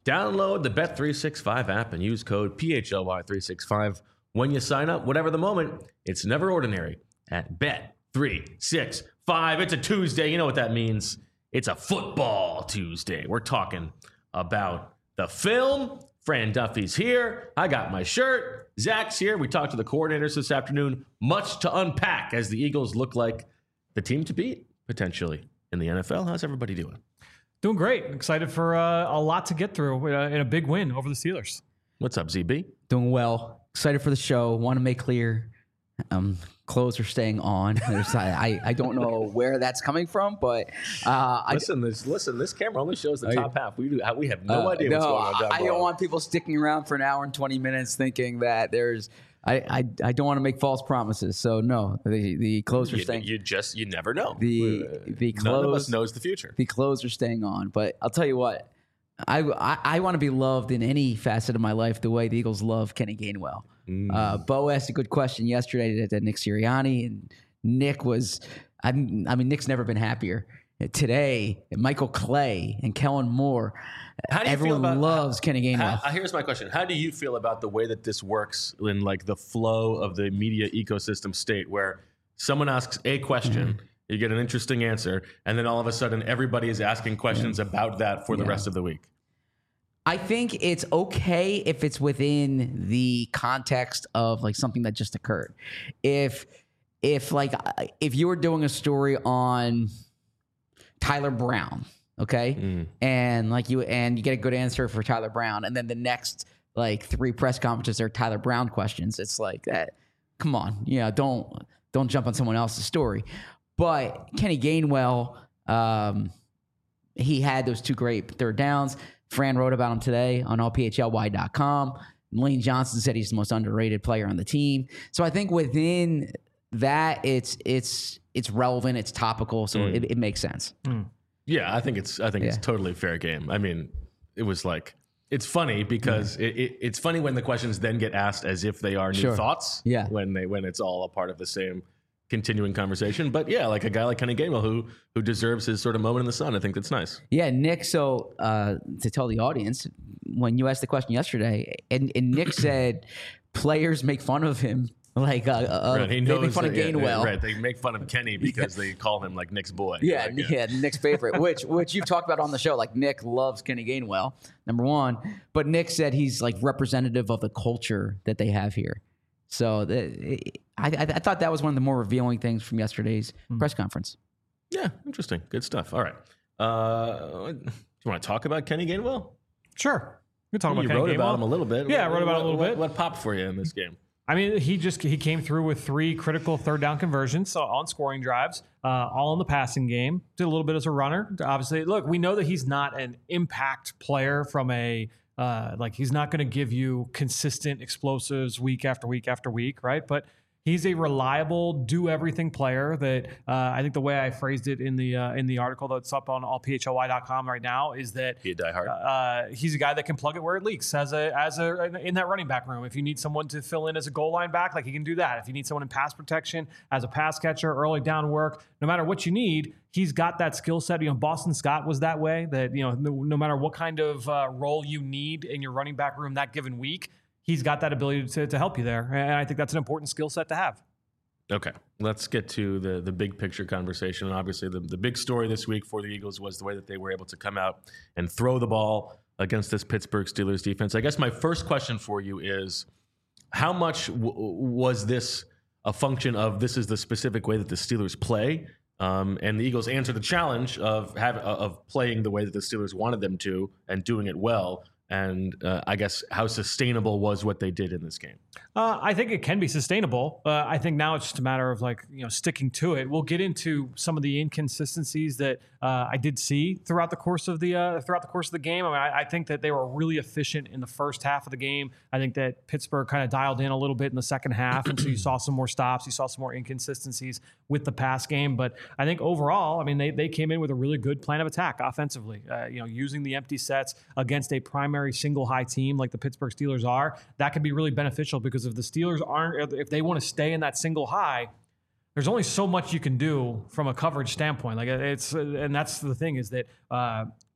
Download the Bet365 app and use code PHLY365 when you sign up. Whatever the moment, it's never ordinary at Bet365. It's a Tuesday. You know what that means. It's a football Tuesday. We're talking about the film. Fran Duffy's here. I got my shirt. Zach's here. We talked to the coordinators this afternoon. Much to unpack as the Eagles look like the team to beat, potentially, in the NFL. How's everybody doing? Doing great. Excited for a lot to get through in a big win over the Steelers. What's up, ZB? Doing well. Excited for the show. Want to make clear, clothes are staying on. I don't know where that's coming from, but this camera only shows the top half. We have no idea what's going on down I below. don't want people sticking around for an hour and 20 minutes thinking that there's. I don't want to make false promises. So no, the clothes are staying. You never know. The clothes. None of us knows the future. The clothes are staying on, but I'll tell you what. I want to be loved in any facet of my life the way the Eagles love Kenny Gainwell. Bo asked a good question yesterday to Nick Sirianni, and Nick was, Nick's never been happier. Today, Michael Clay and Kellen Moore, everyone loves Kenny Gainwell. Here's my question. How do you feel about the way that this works in like the flow of the media ecosystem state where someone asks a question, you get an interesting answer, and then all of a sudden everybody is asking questions about that for the rest of the week? I think it's okay if it's within the context of like something that just occurred. If you were doing a story on Tyler Brown, okay, and you get a good answer for Tyler Brown, and then the next like 3 press conferences are Tyler Brown questions. It's like that. Come on, don't jump on someone else's story. But Kenny Gainwell, he had those 2 great third downs. Fran wrote about him today on allphly.com. Lane Johnson said he's the most underrated player on the team. So I think within that, it's relevant, it's topical, so it makes sense. Yeah, I think it's totally fair game. I mean, it was like, it's funny because it's funny when the questions then get asked as if they are new thoughts. Yeah, when it's all a part of the same continuing conversation. But yeah, like a guy like Kenny Gainwell who deserves his sort of moment in the sun. I think that's nice. Yeah, Nick. So to tell the audience, when you asked the question yesterday, and Nick said players make fun of him. Like right. They make fun of Gainwell. Yeah, right. They make fun of Kenny because they call him like Nick's boy. Yeah, Nick's favorite, which you've talked about on the show. Like Nick loves Kenny Gainwell, number one. But Nick said he's like representative of the culture that they have here. So I thought that was one of the more revealing things from yesterday's press conference. Yeah, interesting. Good stuff. All right. Do you want to talk about Kenny Gainwell? Sure. We can talk about Kenny Gainwell. You wrote about him a little bit. Yeah, I wrote about him a little bit. What popped for you in this game? I mean, he came through with 3 critical third down conversions on scoring drives, all in the passing game. Did a little bit as a runner. Obviously, look, we know that he's not an impact player from a he's not going to give you consistent explosives week after week after week, right? But he's a reliable, do-everything player that I think the way I phrased it in the article that's up on allphly.com right now is that he a diehard. He's a guy that can plug it where it leaks as a in that running back room. If you need someone to fill in as a goal line back, like he can do that. If you need someone in pass protection, as a pass catcher, early down work, no matter what you need, he's got that skill set. Boston Scott was that way. That no matter what kind of role you need in your running back room that given week, he's got that ability to help you there. And I think that's an important skill set to have. Okay, let's get to the big picture conversation. And obviously, the big story this week for the Eagles was the way that they were able to come out and throw the ball against this Pittsburgh Steelers defense. I guess my first question for you is, how much was this a function of this is the specific way that the Steelers play? And the Eagles answered the challenge of playing the way that the Steelers wanted them to and doing it well. And I guess how sustainable was what they did in this game? I think it can be sustainable. I think now it's just a matter of sticking to it. We'll get into some of the inconsistencies that I did see throughout the course of the game. I mean, I think that they were really efficient in the first half of the game. I think that Pittsburgh kind of dialed in a little bit in the second half, and so you saw some more stops, you saw some more inconsistencies with the pass game. But I think overall, I mean, they came in with a really good plan of attack offensively. Using the empty sets against a primary single high team like the Pittsburgh Steelers are, that could be really beneficial because if the Steelers if they want to stay in that single high, there's only so much you can do from a coverage standpoint. And that's the thing is that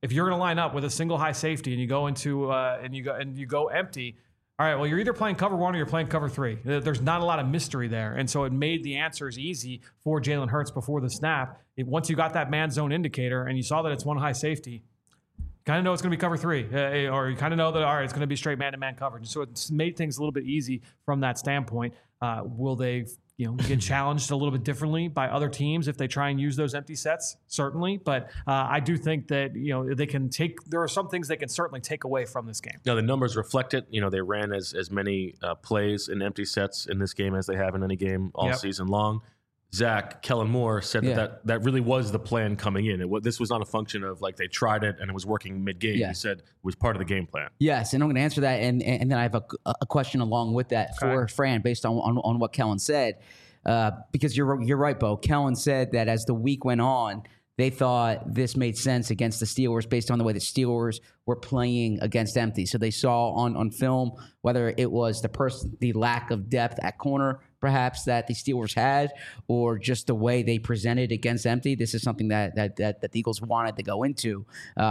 if you're going to line up with a single high safety and you go into and you go empty, all right, well, you're either playing cover 1 or you're playing cover 3. There's not a lot of mystery there. And so it made the answers easy for Jalen Hurts before the snap. Once you got that man zone indicator and you saw that it's one high safety, you kind of know it's going to be cover 3, or you kind of know that, all right, it's going to be straight man-to-man coverage. So it's made things a little bit easy from that standpoint. Will they get challenged a little bit differently by other teams if they try and use those empty sets? Certainly. But I do think that, they can there are some things they can certainly take away from this game. Now, the numbers reflect it. They ran as many plays in empty sets in this game as they have in any game all season long. Zach, Kellen Moore said that really was the plan coming in. This was not a function of like they tried it and it was working mid-game. He said it was part of the game plan. Yes, and I'm going to answer that, and then I have a question along with that for Fran based on what Kellen said, because you're right, Bo. Kellen said that as the week went on, they thought this made sense against the Steelers based on the way the Steelers were playing against empty. So they saw on film whether it was the lack of depth at corner, perhaps, that the Steelers had, or just the way they presented against empty. This is something that the Eagles wanted to go into.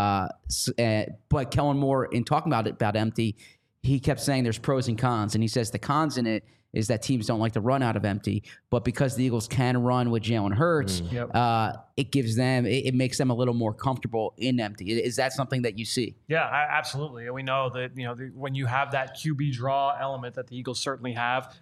But Kellen Moore, in talking about empty, he kept saying there's pros and cons, and he says the cons in it is that teams don't like to run out of empty, but because the Eagles can run with Jalen Hurts, it makes them a little more comfortable in empty. Is that something that you see? Yeah, absolutely. And we know that when you have that QB draw element that the Eagles certainly have,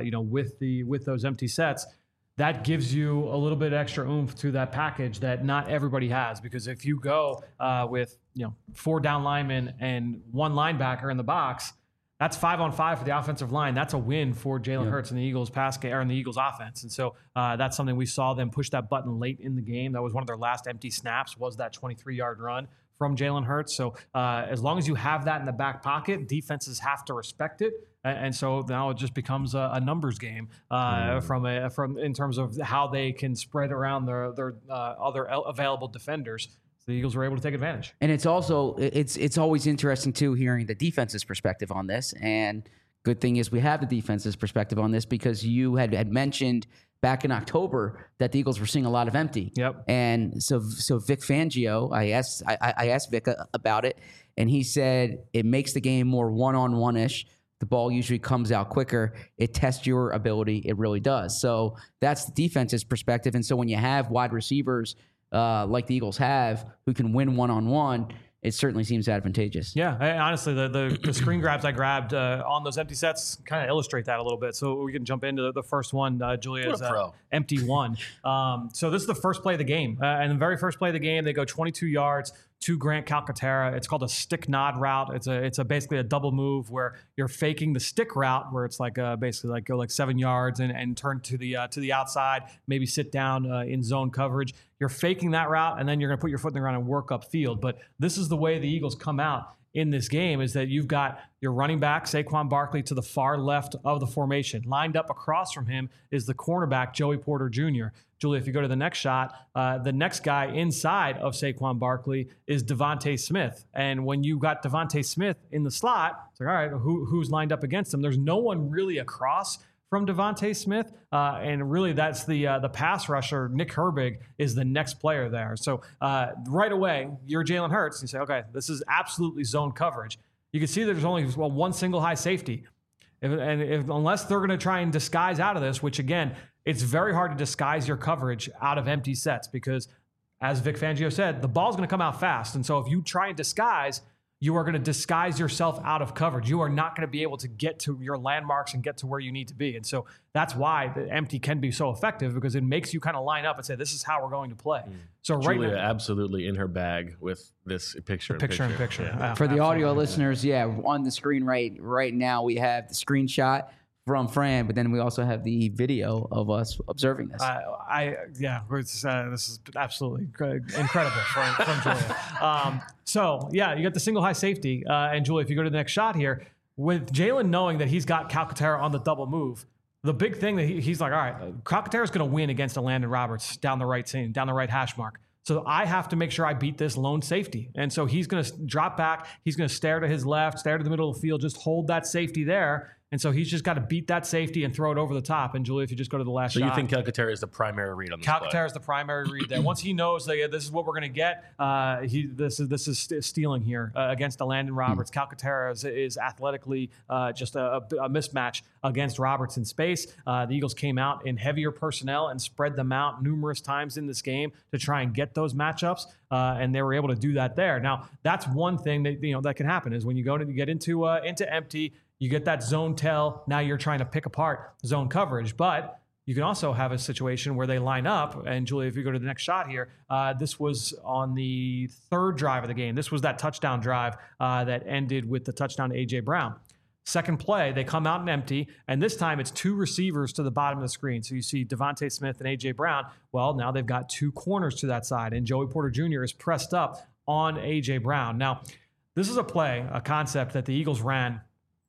with those empty sets, that gives you a little bit extra oomph to that package that not everybody has. Because if you go with 4 down linemen and 1 linebacker in the box, that's 5-on-5 for the offensive line. That's a win for Jalen Hurts and the Eagles and the Eagles offense. And so that's something we saw them push that button late in the game. That was one of their last empty snaps, was that 23-yard run from Jalen Hurts. So as long as you have that in the back pocket, defenses have to respect it. And so now it just becomes a numbers game from in terms of how they can spread around their other available defenders. The Eagles were able to take advantage. And it's also it's always interesting too hearing the defense's perspective on this. And good thing is we have the defense's perspective on this, because you had mentioned back in October that the Eagles were seeing a lot of empty. Yep. And so Vic Fangio, I asked Vic about it, and he said it makes the game more one-on-one-ish. The ball usually comes out quicker. It tests your ability. It really does. So that's the defense's perspective. And so when you have wide receivers like the Eagles have, who can win one-on-one, it certainly seems advantageous. Yeah, honestly, the screen grabs I grabbed on those empty sets kind of illustrate that a little bit. So we can jump into the first one, Julia's empty one. So this is the first play of the game. And the very first play of the game, they go 22 yards to Grant Calcaterra. It's called a stick nod route. It's basically a double move where you're faking the stick route, where it's like basically like go like 7 yards and turn to the outside, maybe sit down in zone coverage. You're faking that route, and then you're going to put your foot in the ground and work upfield. But this is the way the Eagles come out in this game, is that you've got your running back, Saquon Barkley, to the far left of the formation. Lined up across from him is the cornerback, Joey Porter Jr. Julie, if you go to the next shot, the next guy inside of Saquon Barkley is Devontae Smith. And when you got Devontae Smith in the slot, it's like, all right, who's lined up against him? There's no one really across from Devontae Smith, and really that's the pass rusher. Nick Herbig is the next player there. So right away, you're Jalen Hurts. You say, okay, this is absolutely zone coverage. You can see there's only one single high safety. Unless they're going to try and disguise out of this, which again, it's very hard to disguise your coverage out of empty sets, because as Vic Fangio said, the ball's going to come out fast. And so if you try and disguise, you are going to disguise yourself out of coverage. You are not going to be able to get to your landmarks and get to where you need to be. And so that's why the empty can be so effective, because it makes you kind of line up and say, this is how we're going to play. So Julia right now, absolutely in her bag with this picture in picture. Yeah. For the audio listeners, on the screen right now, we have the screenshot from Fran, but then we also have the video of us observing this. This is absolutely incredible from Julia. You got the single high safety, and Julia, if you go to the next shot here, with Jalen knowing that he's got Calcaterra on the double move, the big thing that he's like, all right, Calcaterra's going to win against a Landon Roberts down the right hash mark. So I have to make sure I beat this lone safety. And so he's going to drop back. He's going to stare to his left, stare to the middle of the field, just hold that safety there. And so he's just got to beat that safety and throw it over the top. And Julia, if you just go to the last So shot. you think Calcaterra is the primary read on this play? Calcaterra is the primary read there. Once he knows that this is what we're going to get, this is stealing here against Landon Roberts. Calcaterra is athletically just a mismatch against Roberts in space. The Eagles came out in heavier personnel and spread them out numerous times in this game to try and get those matchups, and they were able to do that there. Now, that's one thing that that can happen is when you get into empty, you get that zone tell. Now you're trying to pick apart zone coverage, but you can also have a situation where they line up. And Julia, if you go to the next shot here, this was on the third drive of the game. This was that touchdown drive that ended with the touchdown to A.J. Brown. Second play, they come out in empty, and this time it's two receivers to the bottom of the screen. So you see Devontae Smith and A.J. Brown. Well, now they've got two corners to that side, and Joey Porter Jr. is pressed up on A.J. Brown. Now, this is a concept that the Eagles ran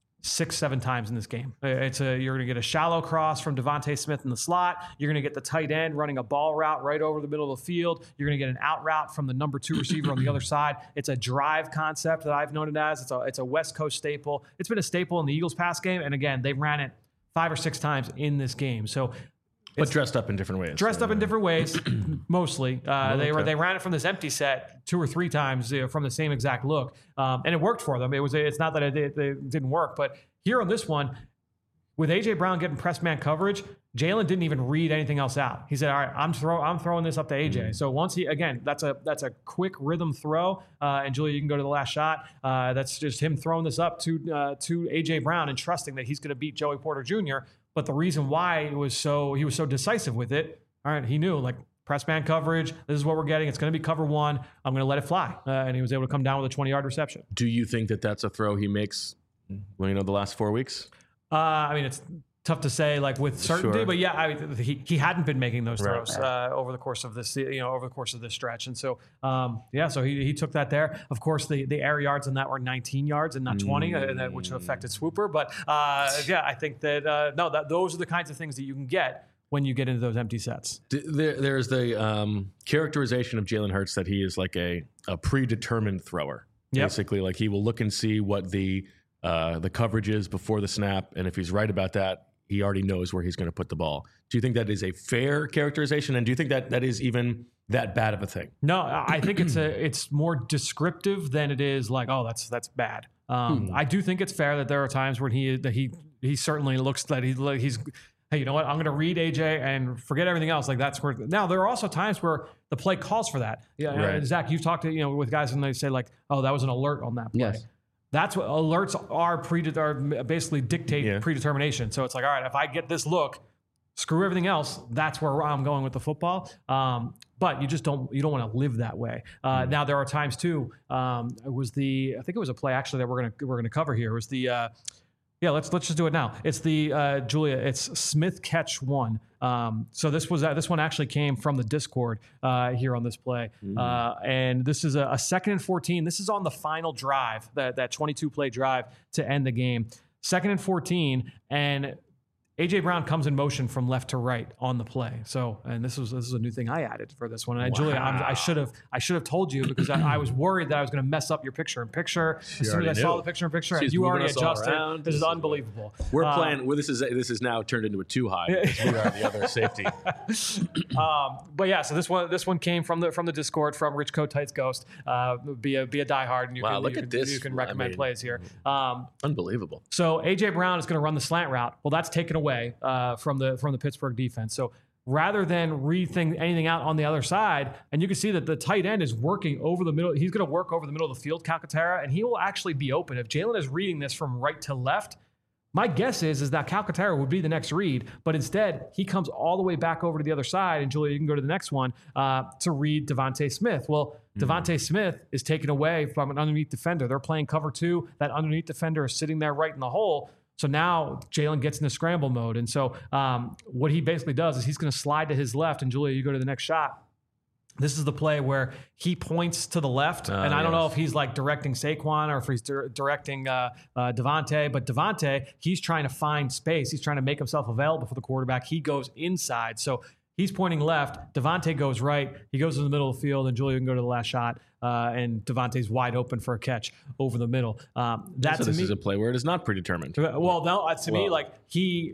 6-7 times in this game. You're going to get a shallow cross from Devontae Smith in the slot. You're going to get the tight end running a ball route right over the middle of the field. You're going to get an out route from the number 2 receiver on the other side. It's a drive concept that I've known it as. It's a West Coast staple. It's been a staple in the Eagles pass game. And again, they ran it 5 or 6 times in this game. So, but dressed up in different ways. Dressed up in different ways, mostly. They ran it from this empty set 2 or 3 times from the same exact look, and it worked for them. It's not that it didn't work, but here on this one, with A.J. Brown getting press man coverage, Jalen didn't even read anything else out. He said, "All right, I'm throwing this up to A.J." So once that's a quick rhythm throw, and Julia, you can go to the last shot. That's just him throwing this up to A.J. Brown and trusting that he's going to beat Joey Porter Jr. But the reason why he was so decisive with it, all right, he knew, like, press man coverage, this is what we're getting. It's going to be cover 1. I'm going to let it fly. And he was able to come down with a 20-yard reception. Do you think that that's a throw he makes, the last 4 weeks? It's tough to say, like, with certainty, Sure. but yeah, he hadn't been making those throws over the course of this, over the course of this stretch, and so so he took that there. Of course, the air yards on that were 19 yards and not 20, which affected Swooper. But I think that those are the kinds of things that you can get when you get into those empty sets. There's the characterization of Jalen Hurts that he is like a predetermined thrower. Yep. Basically, like, he will look and see what the coverage is before the snap, and if he's right about that, he already knows where he's going to put the ball. Do you think that is a fair characterization, and do you think that is even that bad of a thing? No, I think it's more descriptive than it is like, oh, that's bad. I do think it's fair that there are times when he certainly looks that he's hey, you know what? I'm going to read AJ and forget everything else. Like, that's where. Now, there are also times where the play calls for that. Yeah, right. Zach, you've talked to with guys and they say, like, oh, that was an alert on that play. Yes. That's what alerts are basically dictate predetermination. So it's like, all right, if I get this look, screw everything else. That's where I'm going with the football. But you don't want to live that way. Now there are times too. I think it was a play actually that we're gonna cover here. It was the let's just do it now. It's the Julia. It's Smith catch 1. So this one actually came from the Discord here on this play, and this is a 2nd and 14. This is on the final drive, that 22 play drive to end the game. 2nd and 14, and A.J. Brown comes in motion from left to right on the play. So, and this is a new thing I added for this one. And Julia, I should have told you because I was worried that I was going to mess up your picture-in-picture. As soon as I saw the picture-in-picture, and you already adjusted. This is unbelievable. We're playing. Well, this is now turned into a 2-high. Because we are the other safety. But yeah, so this one came from the Discord from Rich Coat Tights Ghost. Be a diehard, and you can recommend plays here. Unbelievable. So A.J. Brown is going to run the slant route. Well, that's taken away from the Pittsburgh defense. So rather than rethink anything out on the other side, and you can see that the tight end is working over the middle. He's going to work over the middle of the field, Calcaterra, and he will actually be open. If Jalen is reading this from right to left, my guess is that Calcaterra would be the next read, but instead he comes all the way back over to the other side. And Julia, you can go to the next one to read Devontae Smith. Well, Devontae Smith is taken away from an underneath defender. They're playing cover 2. That underneath defender is sitting there right in the hole. So now Jalen gets into scramble mode. And so what he basically does is he's going to slide to his left. And Julia, you go to the next shot. This is the play where he points to the left. And I don't know if he's like directing Saquon or if he's directing Devontae. But Devontae, he's trying to find space. He's trying to make himself available for the quarterback. He goes inside. So He's pointing left. Devontae goes right. He goes in the middle of the field, and Julia can go to the last shot. And Devontae's wide open for a catch over the middle. This is a play where it is not predetermined. Well, no, to me, like he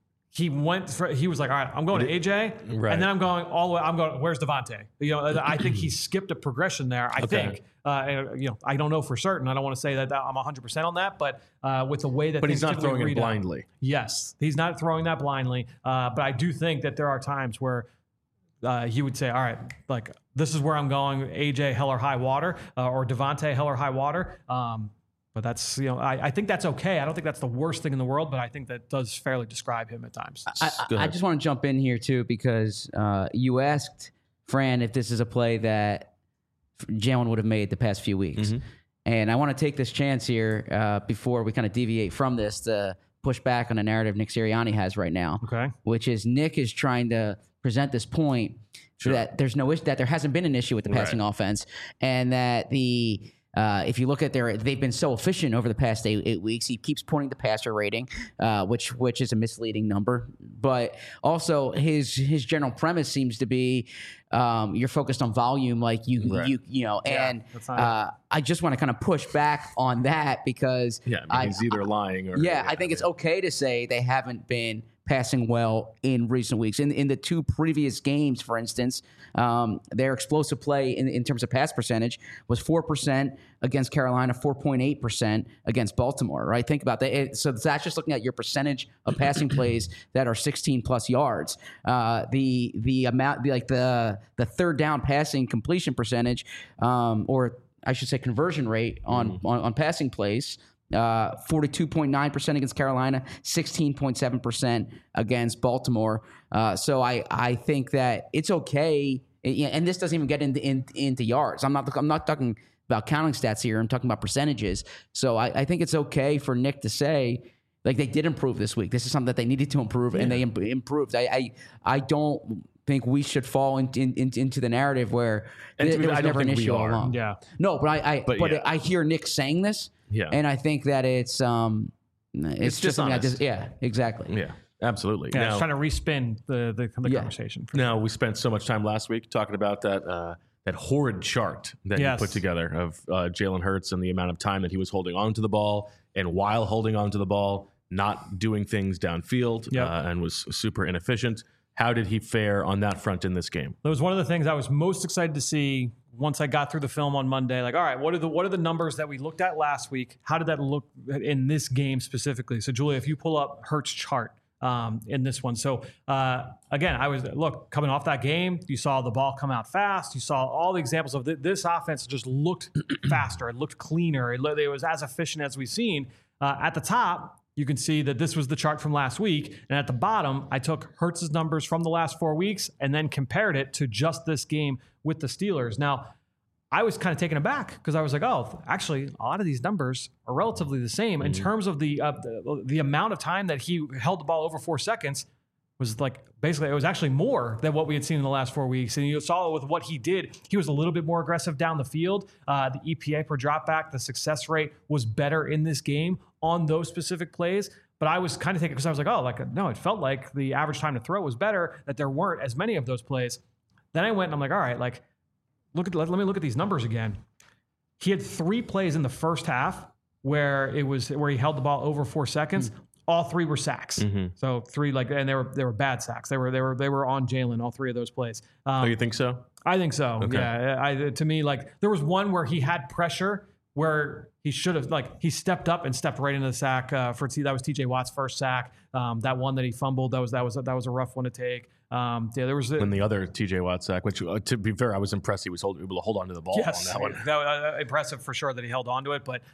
was like, all right, I'm going to AJ, Right. and then I'm going all the way. I'm going, where's Devontae? I think he skipped a progression there. I think, I don't know for certain. I don't want to say that I'm 100% on that, but with the way that, but he's not throwing it blindly. Yes, he's not throwing that blindly. But I do think that there are times where he would say, all right, like this is where I'm going, AJ hell or high water, or Devontae hell or high water. But that's, I think that's okay. I don't think that's the worst thing in the world, but I think that does fairly describe him at times. I just want to jump in here too, because you asked Fran if this is a play that Jalen would have made the past few weeks. Mm-hmm. And I want to take this chance here before we kind of deviate from this to push back on the narrative Nick Sirianni has right now, which is Nick is trying to present this point that there's no issue, that there hasn't been an issue with the passing offense, and that if you look at they've been so efficient over the past 8 weeks. He keeps pointing to passer rating, which is a misleading number. But also his general premise seems to be you're focused on volume, like and I just want to kind of push back on that because he's either lying or I think it's okay to say they haven't been passing well in recent weeks. In the 2 previous games, for instance, their explosive play in terms of pass percentage was 4% against Carolina, 4.8% against Baltimore, right? Think about that. So that's just looking at your percentage of passing plays that are 16 plus yards. The amount, like the third down passing completion percentage, or I should say conversion rate on passing plays, 42.9% against Carolina, 16.7% against Baltimore. So I think that it's okay, and this doesn't even get into yards. I'm not talking about counting stats here. I'm talking about percentages. So I think it's okay for Nick to say, like, they did improve this week. This is something that they needed to improve, and they improved. I don't think we should fall into the narrative where there was never an issue all along. Yeah. No, but I hear Nick saying this. Yeah. And I think that it's just dishonest. Exactly. Yeah, absolutely. Yeah, now, just trying to respin the conversation. Now, we spent so much time last week talking about that horrid chart that you put together of Jalen Hurts and the amount of time that he was holding on to the ball, and while holding on to the ball, not doing things downfield, and was super inefficient. How did he fare on that front in this game? That was one of the things I was most excited to see once I got through the film on Monday. Like, all right, what are the numbers that we looked at last week? How did that look in this game specifically? So, Julia, if you pull up Hurts' chart in this one. So, again, coming off that game, you saw the ball come out fast. You saw all the examples of this offense just looked faster. It looked cleaner. It was as efficient as we've seen. At the top, you can see that this was the chart from last week. And at the bottom, I took Hurts' numbers from the last 4 weeks and then compared it to just this game with the Steelers. Now, I was kind of taken aback because I was like, oh, actually, a lot of these numbers are relatively the same in terms of the amount of time that he held the ball over 4 seconds. Was like, basically, it was actually more than what we had seen in the last 4 weeks. And you saw with what he did, he was a little bit more aggressive down the field. The EPA per dropback, the success rate was better in this game on those specific plays. But I was kind of thinking, because I was like, no, it felt like the average time to throw was better, that there weren't as many of those plays. Then I went and I'm like, all right, like, let me look at these numbers again. He had 3 plays in the first half where he held the ball over 4 seconds. All 3 were sacks. So 3, and they were bad sacks. They were on Jalen, all 3 of those plays. Oh, you think so? I think so. Okay. Yeah. To me, like, there was one where he had pressure where he should have, he stepped up and stepped right into the sack that was TJ Watt's first sack. That one that he fumbled, that was a rough one to take. There was when the other TJ Watt sack, which to be fair, I was impressed he was able to hold on to the ball on that one. That impressive for sure that he held on to it. But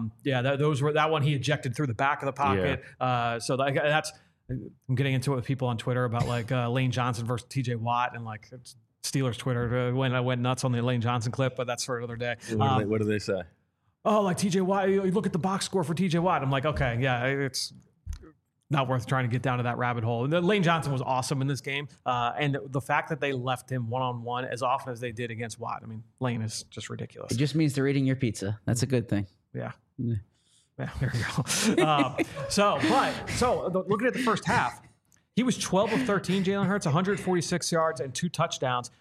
that one he ejected through the back of the pocket. Yeah. So that's, I'm getting into it with people on Twitter about Lane Johnson versus TJ Watt, and Steelers Twitter went nuts on the Lane Johnson clip, but that's for another day. What do they say? Oh, like TJ Watt, you look at the box score for TJ Watt. I'm like, okay, yeah, it's not worth trying to get down to that rabbit hole. Lane Johnson was awesome in this game. And the fact that they left him one-on-one as often as they did against Watt, I mean, Lane is just ridiculous. It just means they're eating your pizza. That's a good thing. Yeah. Yeah, there you go. So looking at the first half, He was 12 of 13, Jalen Hurts, 146 yards and 2 touchdowns,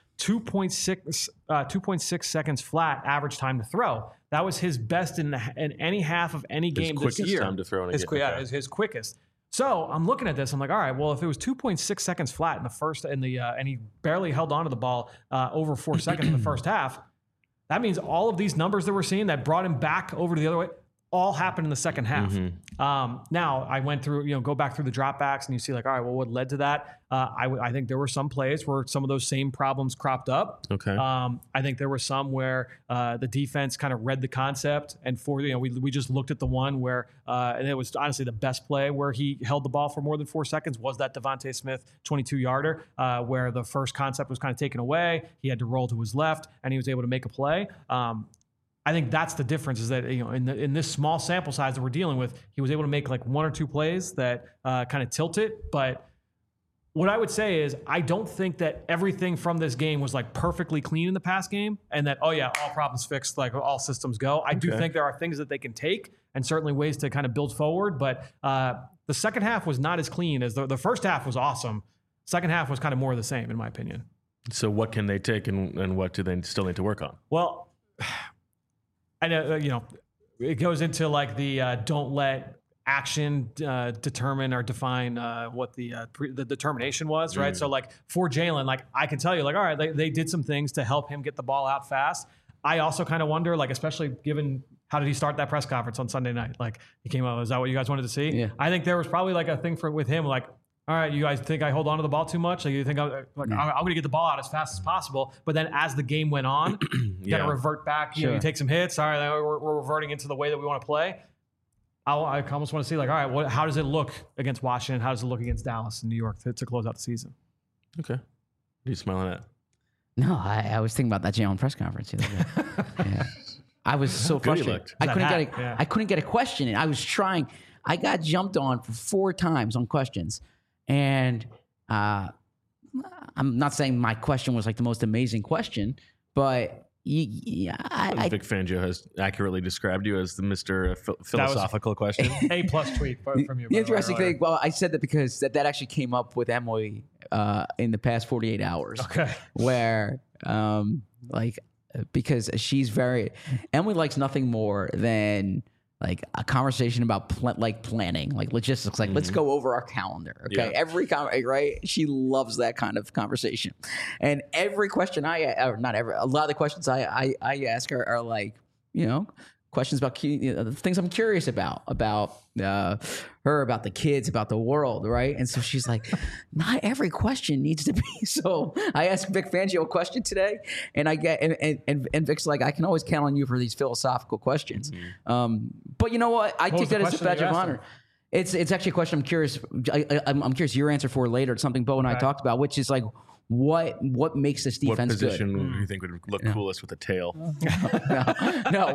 2.6 seconds flat average time to throw. That was his best in any half of any game this quickest year. time to throw in a his, game. Okay. his quickest. So I'm looking at this. I'm like, all right, well, if it was 2.6 seconds flat in the first, and he barely held onto the ball over 4 seconds in the first half, that means all of these numbers that we're seeing that brought him back over to the other way all happened in the second half. Now I went through, go back through the dropbacks and you see like, all right, well, what led to that? I think there were some plays where some of those same problems cropped up. Okay. I think there were some where the defense kind of read the concept and we just looked at the one where, and it was honestly the best play where he held the ball for more than 4 seconds was that Devontae Smith 22-yarder where the first concept was kind of taken away. He had to roll to his left and he was able to make a play. I think that's the difference is that, in this small sample size that we're dealing with, he was able to make like 1 or 2 plays that kind of tilt it. But what I would say is I don't think that everything from this game was like perfectly clean in the past game and that, all problems fixed, like all systems go. I do think there are things that they can take and certainly ways to kind of build forward. But the second half was not as clean as the first half was awesome. Second half was kind of more of the same, in my opinion. So what can they take and what do they still need to work on? Well, I know, it goes into like the don't let action determine or define what the determination was, right? So like for Jalen, like I can tell you, like, all right, they did some things to help him get the ball out fast. I also kind of wonder, like, especially given how did he start that press conference on Sunday night? Like he came out, is that what you guys wanted to see? Yeah. I think there was probably like a thing with him, like, all right, you guys think I hold on to the ball too much? Like you think I'm going to get the ball out as fast as possible? But then as the game went on, you got to revert back. You take some hits. All right, we're reverting into the way that we want to play. I almost want to see like, all right, how does it look against Washington? How does it look against Dallas and New York to close out the season? Okay. What are you smiling at? No, I was thinking about that Jalen press conference. Yeah. I was so frustrated. I couldn't get a question in. I was trying. I got jumped on for 4 times on questions. And I'm not saying my question was like the most amazing question, but Vic Fangio has accurately described you as the Mr. Philosophical question. A+ tweet from you. The interesting thing, well, I said that because that actually came up with Emily in the past 48 hours. Okay. Where, because Emily likes nothing more than like a conversation about planning, like logistics, like let's go over our calendar. Okay. Yeah. Right. She loves that kind of conversation. And every question a lot of the questions I ask her are like, questions about things I'm curious about her, about the kids, about the world, right? And so she's like, not every question needs to be. So I asked Vic Fangio a question today, and I get and Vic's like, I can always count on you for these philosophical questions. But you know what? I take that as a badge of honor. It's actually a question I'm curious. I'm curious your answer for later. It's something Bo and I talked about, which is like, what makes this defense good? What position do you think would look coolest with a tail? No.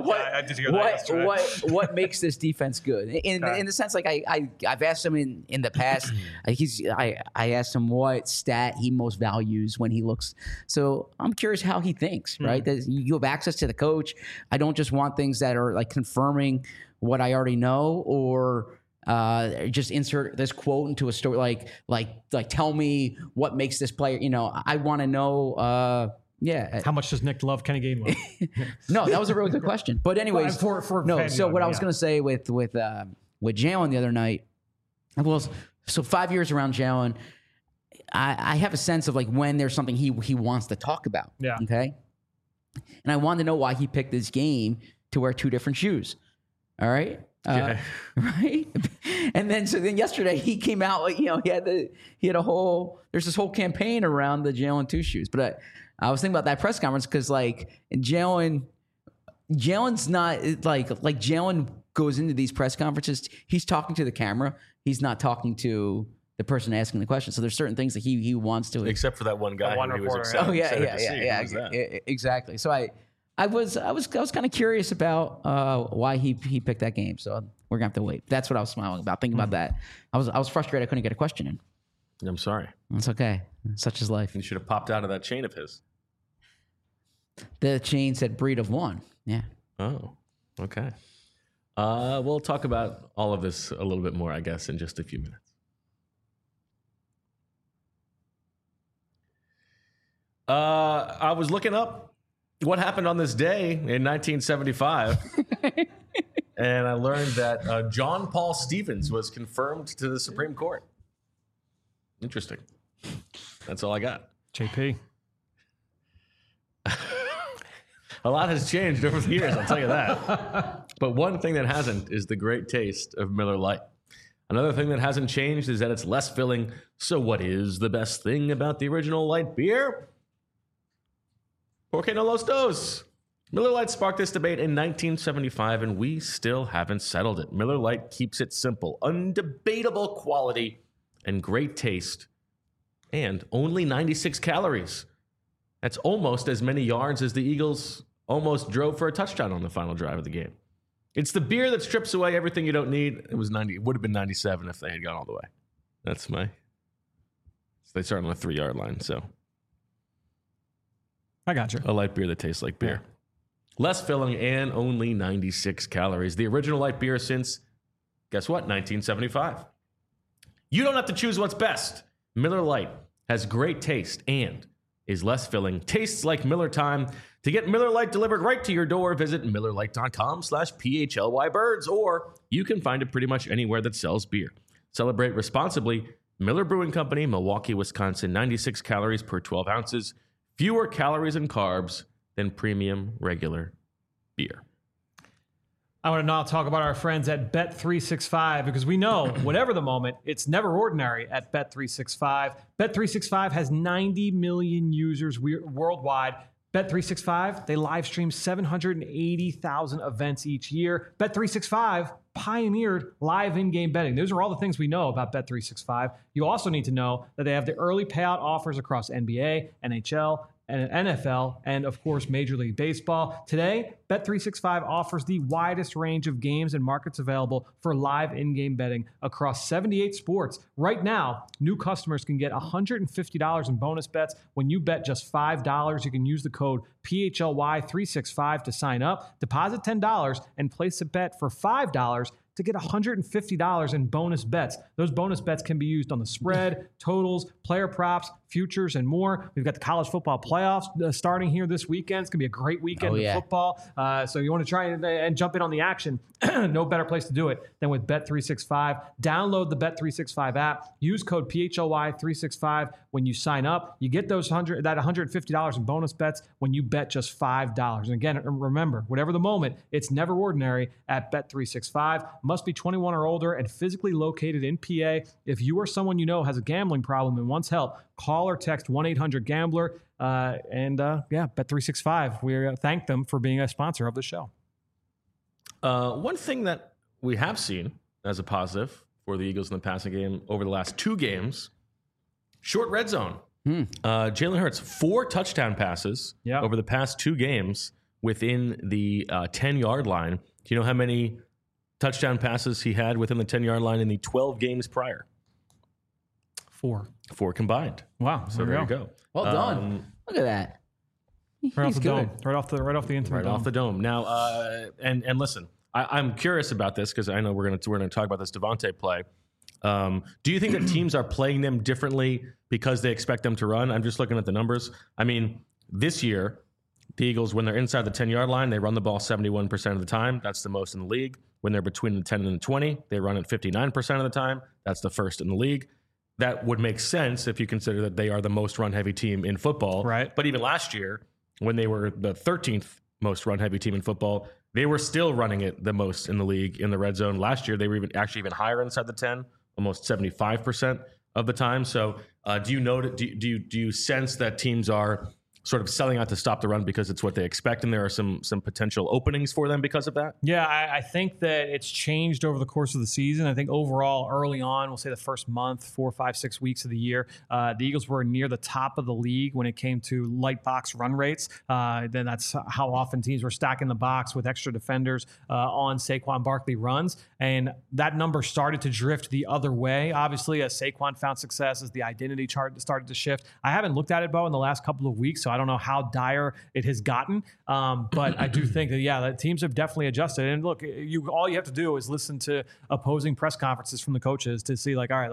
What makes this defense good? In the sense, like I've asked him in the past. I asked him what stat he most values when he looks. So I'm curious how he thinks. Right? You have access to the coach. I don't just want things that are like confirming what I already know, or just insert this quote into a story, like tell me what makes this player. I want to know. How much does Nick love Kenny Gainwell? No, that was a really good question. But anyways, so what I was going to say with Jalen the other night, so 5 years around Jalen, I have a sense of like when there's something he wants to talk about. Yeah. Okay. And I wanted to know why he picked this game to wear 2 different shoes. All right. Right. And then yesterday he came out, he had there's this whole campaign around the Jalen 2 shoes. But I was thinking about that press conference because like Jalen's not like Jalen goes into these press conferences. He's talking to the camera. He's not talking to the person asking the question. So there's certain things that he wants to, except for that one guy who he was excited. Oh yeah. Exactly. So I was kind of curious about why he picked that game. So we're gonna have to wait. That's what I was smiling about, thinking about that. I was frustrated I couldn't get a question in. I'm sorry. It's okay. Such is life. You should have popped out of that chain of his. The chain said breed of 1. Yeah. Oh, okay. We'll talk about all of this a little bit more, I guess, in just a few minutes. I was looking up what happened on this day in 1975, and I learned that John Paul Stevens was confirmed to the Supreme Court. Interesting. That's all I got. JP. A lot has changed over the years, I'll tell you that. But one thing that hasn't is the great taste of Miller Lite. Another thing that hasn't changed is that it's less filling. So what is the best thing about the original light beer? Por qué no los dos? Miller Lite sparked this debate in 1975, and we still haven't settled it. Miller Lite keeps it simple, undebatable quality, and great taste, and only 96 calories. That's almost as many yards as the Eagles almost drove for a touchdown on the final drive of the game. It's the beer that strips away everything you don't need. It was 90. It would have been 97 if they had gone all the way. That's my. So they start on the 3-yard line. So I got you. a light beer that tastes like beer, less filling, and only 96 calories. The original light beer since, guess what? 1975. You don't have to choose what's best. Miller Lite has great taste and is less filling, tastes like Miller time. To get Miller Lite delivered right to your door, visit MillerLite.com/PHLYBirds, or you can find it pretty much anywhere that sells beer. Celebrate responsibly. Miller Brewing Company, Milwaukee, Wisconsin, 96 calories per 12 ounces, fewer calories and carbs than premium regular beer. I want to now talk about our friends at Bet365 because we know, whatever the moment, it's never ordinary at Bet365. Bet365 has 90 million users worldwide. Bet365, they live stream 780,000 events each year. Bet365 pioneered live in-game betting. Those are all the things we know about Bet365. You also need to know that they have the early payout offers across NBA, NHL, and NFL, and of course, Major League Baseball. Today, Bet365 offers the widest range of games and markets available for live in-game betting across 78 sports. Right now, new customers can get $150 in bonus bets when you bet just $5. You can use the code PHLY365 to sign up, deposit $10, and place a bet for $5 to get $150 in bonus bets. Those bonus bets can be used on the spread, totals, player props, futures, and more. We've got the college football playoffs starting here this weekend. It's going to be a great weekend of football. So you want to try and jump in on the action. No better place to do it than with Bet365. Download the Bet365 app. Use code PHLY365 when you sign up. You get that $150 in bonus bets when you bet just $5. And again, remember, whatever the moment, it's never ordinary at Bet365. Must be 21 or older and physically located in PA. If you or someone you know has a gambling problem and wants help, call or text 1-800-GAMBLER. Bet365. We thank them for being a sponsor of the show. One thing that we have seen as a positive for the Eagles in the passing game over the last 2 games, short red zone. Jalen Hurts, 4 touchdown passes over the past 2 games within the 10-yard line. Do you know how many touchdown passes he had within the 10-yard line in the 12 games prior? 4 combined. Wow. So there you go. Well done. Look at that. Right off the dome. Right off the intimate right dome. off the dome. Now, and listen, I'm curious about this because I know we're gonna talk about this Devontae play. Do you think that teams are playing them differently because they expect them to run? I'm just looking at the numbers. I mean, this year, the Eagles, when they're inside the 10-yard line, they run the ball 71% of the time. That's the most in the league. When they're between the 10 and the 20, they run it 59% of the time. That's the first in the league. That would make sense if you consider that they are the most run-heavy team in football. Right. But even last year, when they were the 13th most run-heavy team in football, they were still running it the most in the league in the red zone. Last year, they were even higher inside the 10, almost 75% of the time. So do you sense that teams are sort of selling out to stop the run because it's what they expect, and there are some potential openings for them because of that? Yeah, I think that it's changed over the course of the season. I think overall, early on, we'll say the first month, 4, 5, 6 weeks of the year, the Eagles were near the top of the league when it came to light box run rates. Then that's how often teams were stacking the box with extra defenders on Saquon Barkley runs. And that number started to drift the other way. Obviously, as Saquon found success, as the identity chart started to shift. I haven't looked at it, Bo, in the last couple of weeks, so I don't know how dire it has gotten. But I do think that, the teams have definitely adjusted. And look, all you have to do is listen to opposing press conferences from the coaches to see, all right,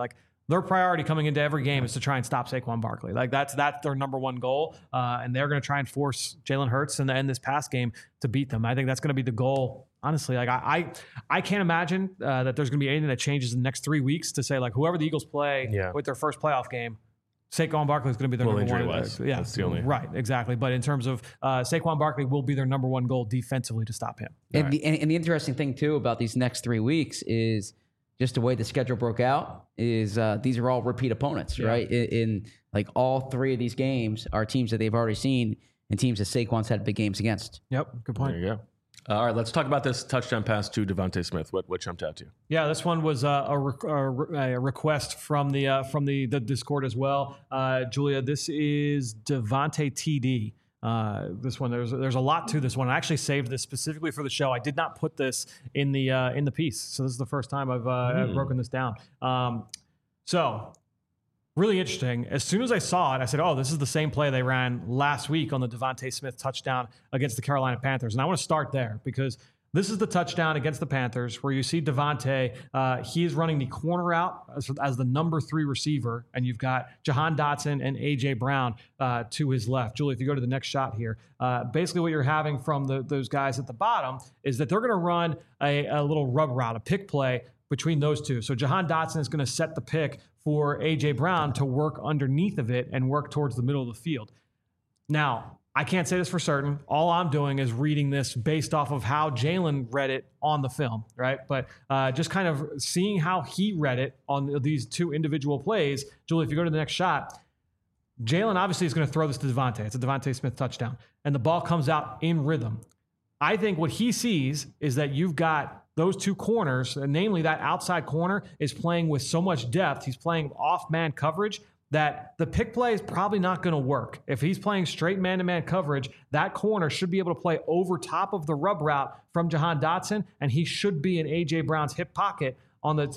their priority coming into every game is to try and stop Saquon Barkley. Like that's their number one goal, and they're going to try and force Jalen Hurts in this pass game to beat them. I think that's going to be the goal. Honestly, like I can't imagine that there's going to be anything that changes in the next 3 weeks to say like whoever the Eagles play with their first playoff game, Saquon Barkley is going to be their number one. Yeah, that's the only right, exactly. But in terms of Saquon Barkley will be their number one goal defensively to stop him. And the interesting thing too about these next 3 weeks is just the way the schedule broke out is these are all repeat opponents, right? In like all 3 of these games are teams that they've already seen and teams that Saquon's had big games against. Yep, good point. There you go. All right, let's talk about this touchdown pass to Devontae Smith. What jumped out to you? Yeah, this one was a request from the Discord as well. Julia, this is Devontae TD. This one, there's a lot to this one. I actually saved this specifically for the show. I did not put this in the piece, so this is the first time I've broken this down. So really interesting. As soon as I saw it, I said, oh, this is the same play they ran last week on the Devontae Smith touchdown against the Carolina Panthers. And I want to start there because this is the touchdown against the Panthers where you see Devontae. He is running the corner out as the number 3 receiver, and you've got Jahan Dotson and A.J. Brown to his left. Julie, if you go to the next shot here, basically what you're having from those guys at the bottom is that they're going to run a little rub route, a pick play between those two. So Jahan Dotson is going to set the pick for A.J. Brown to work underneath of it and work towards the middle of the field. Now, I can't say this for certain. All I'm doing is reading this based off of how Jalen read it on the film, right? But just kind of seeing how he read it on these 2 individual plays. Julie, if you go to the next shot, Jalen obviously is going to throw this to Devontae. It's a Devontae Smith touchdown. And the ball comes out in rhythm. I think what he sees is that you've got those 2 corners, and namely that outside corner is playing with so much depth. He's playing off-man coverage that the pick play is probably not going to work. If he's playing straight man-to-man coverage, that corner should be able to play over top of the rub route from Jahan Dotson, and he should be in A.J. Brown's hip pocket on the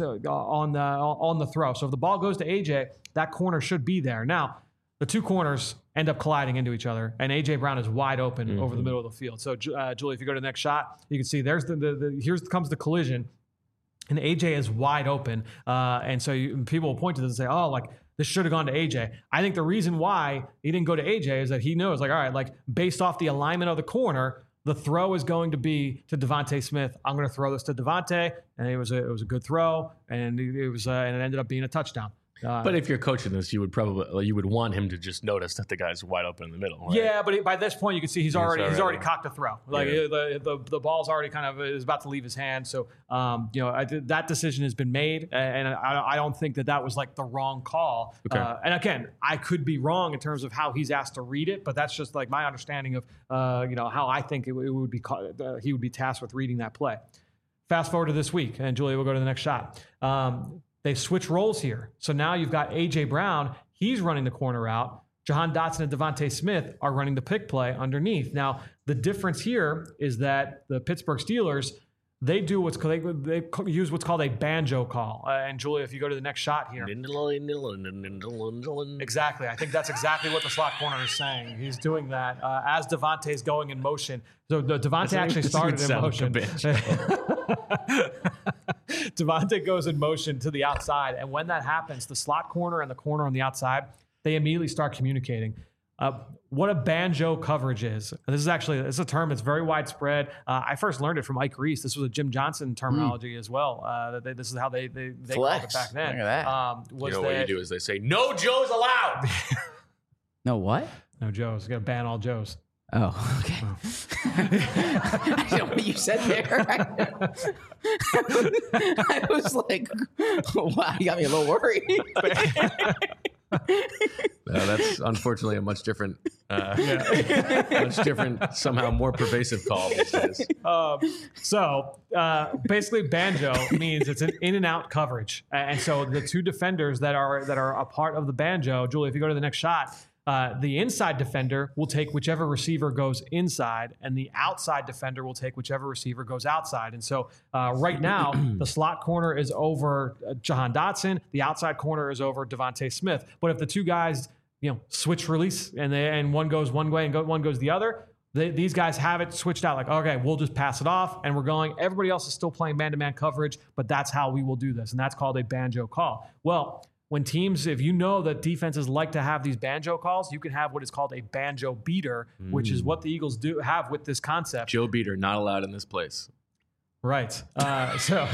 throw. So if the ball goes to A.J., that corner should be there. Now, the 2 corners end up colliding into each other, and A.J. Brown is wide open over the middle of the field. So, Julie, if you go to the next shot, you can see there's here comes the collision, and A.J. is wide open. And so people will point to this and say, oh, like, this should have gone to A.J. I think the reason why he didn't go to A.J. is that he knows, like, all right, like, based off the alignment of the corner, the throw is going to be to Devontae Smith. I'm going to throw this to Devontae, and it was a good throw, and it ended up being a touchdown. But if you're coaching this, you would want him to just notice that the guy's wide open in the middle. Right? Yeah, but by this point, you can see he's already cocked a throw. Like the ball's already kind of is about to leave his hand. So that decision has been made, and I don't think that was like the wrong call. Okay. And again, I could be wrong in terms of how he's asked to read it, but that's just like my understanding of how I think it would be he would be tasked with reading that play. Fast forward to this week, and Julia will go to the next shot. They switch roles here. So now you've got A.J. Brown. He's running the corner out. Jahan Dotson and Devontae Smith are running the pick play underneath. Now, the difference here is that the Pittsburgh Steelers, they use what's called a banjo call. And Julia, if you go to the next shot here. Exactly. I think that's exactly what the slot corner is saying. He's doing that as Devontae's going in motion. So Devontae actually started in motion. Devontae goes in motion to the outside. And when that happens, the slot corner and the corner on the outside, they immediately start communicating. What a banjo coverage is. This is a term that's very widespread. I first learned it from Ike Reese. This was a Jim Johnson terminology as well. This is how they called it back then. Look at that. What you do is they say, no Joes allowed. No what? No Joes. You got to ban all Joes. Oh, okay. I know what you said there. I was like, wow, you got me a little worried. That's unfortunately a much different, somehow more pervasive call these days. So basically, banjo means it's an in and out coverage, and so the 2 defenders that are a part of the banjo. Julie, if you go to the next shot. The inside defender will take whichever receiver goes inside, and the outside defender will take whichever receiver goes outside. And so right now, the slot corner is over Jahan Dotson. The outside corner is over Devontae Smith. But if the 2 guys, switch release and one goes one way and one goes the other, these guys have it switched out. Like, okay, we'll just pass it off, and we're going. Everybody else is still playing man-to-man coverage, but that's how we will do this, and that's called a banjo call. Well, when teams, if you know that defenses like to have these banjo calls, you can have what is called a banjo beater, which is what the Eagles do have with this concept. Joe Beater, not allowed in this place. Right. So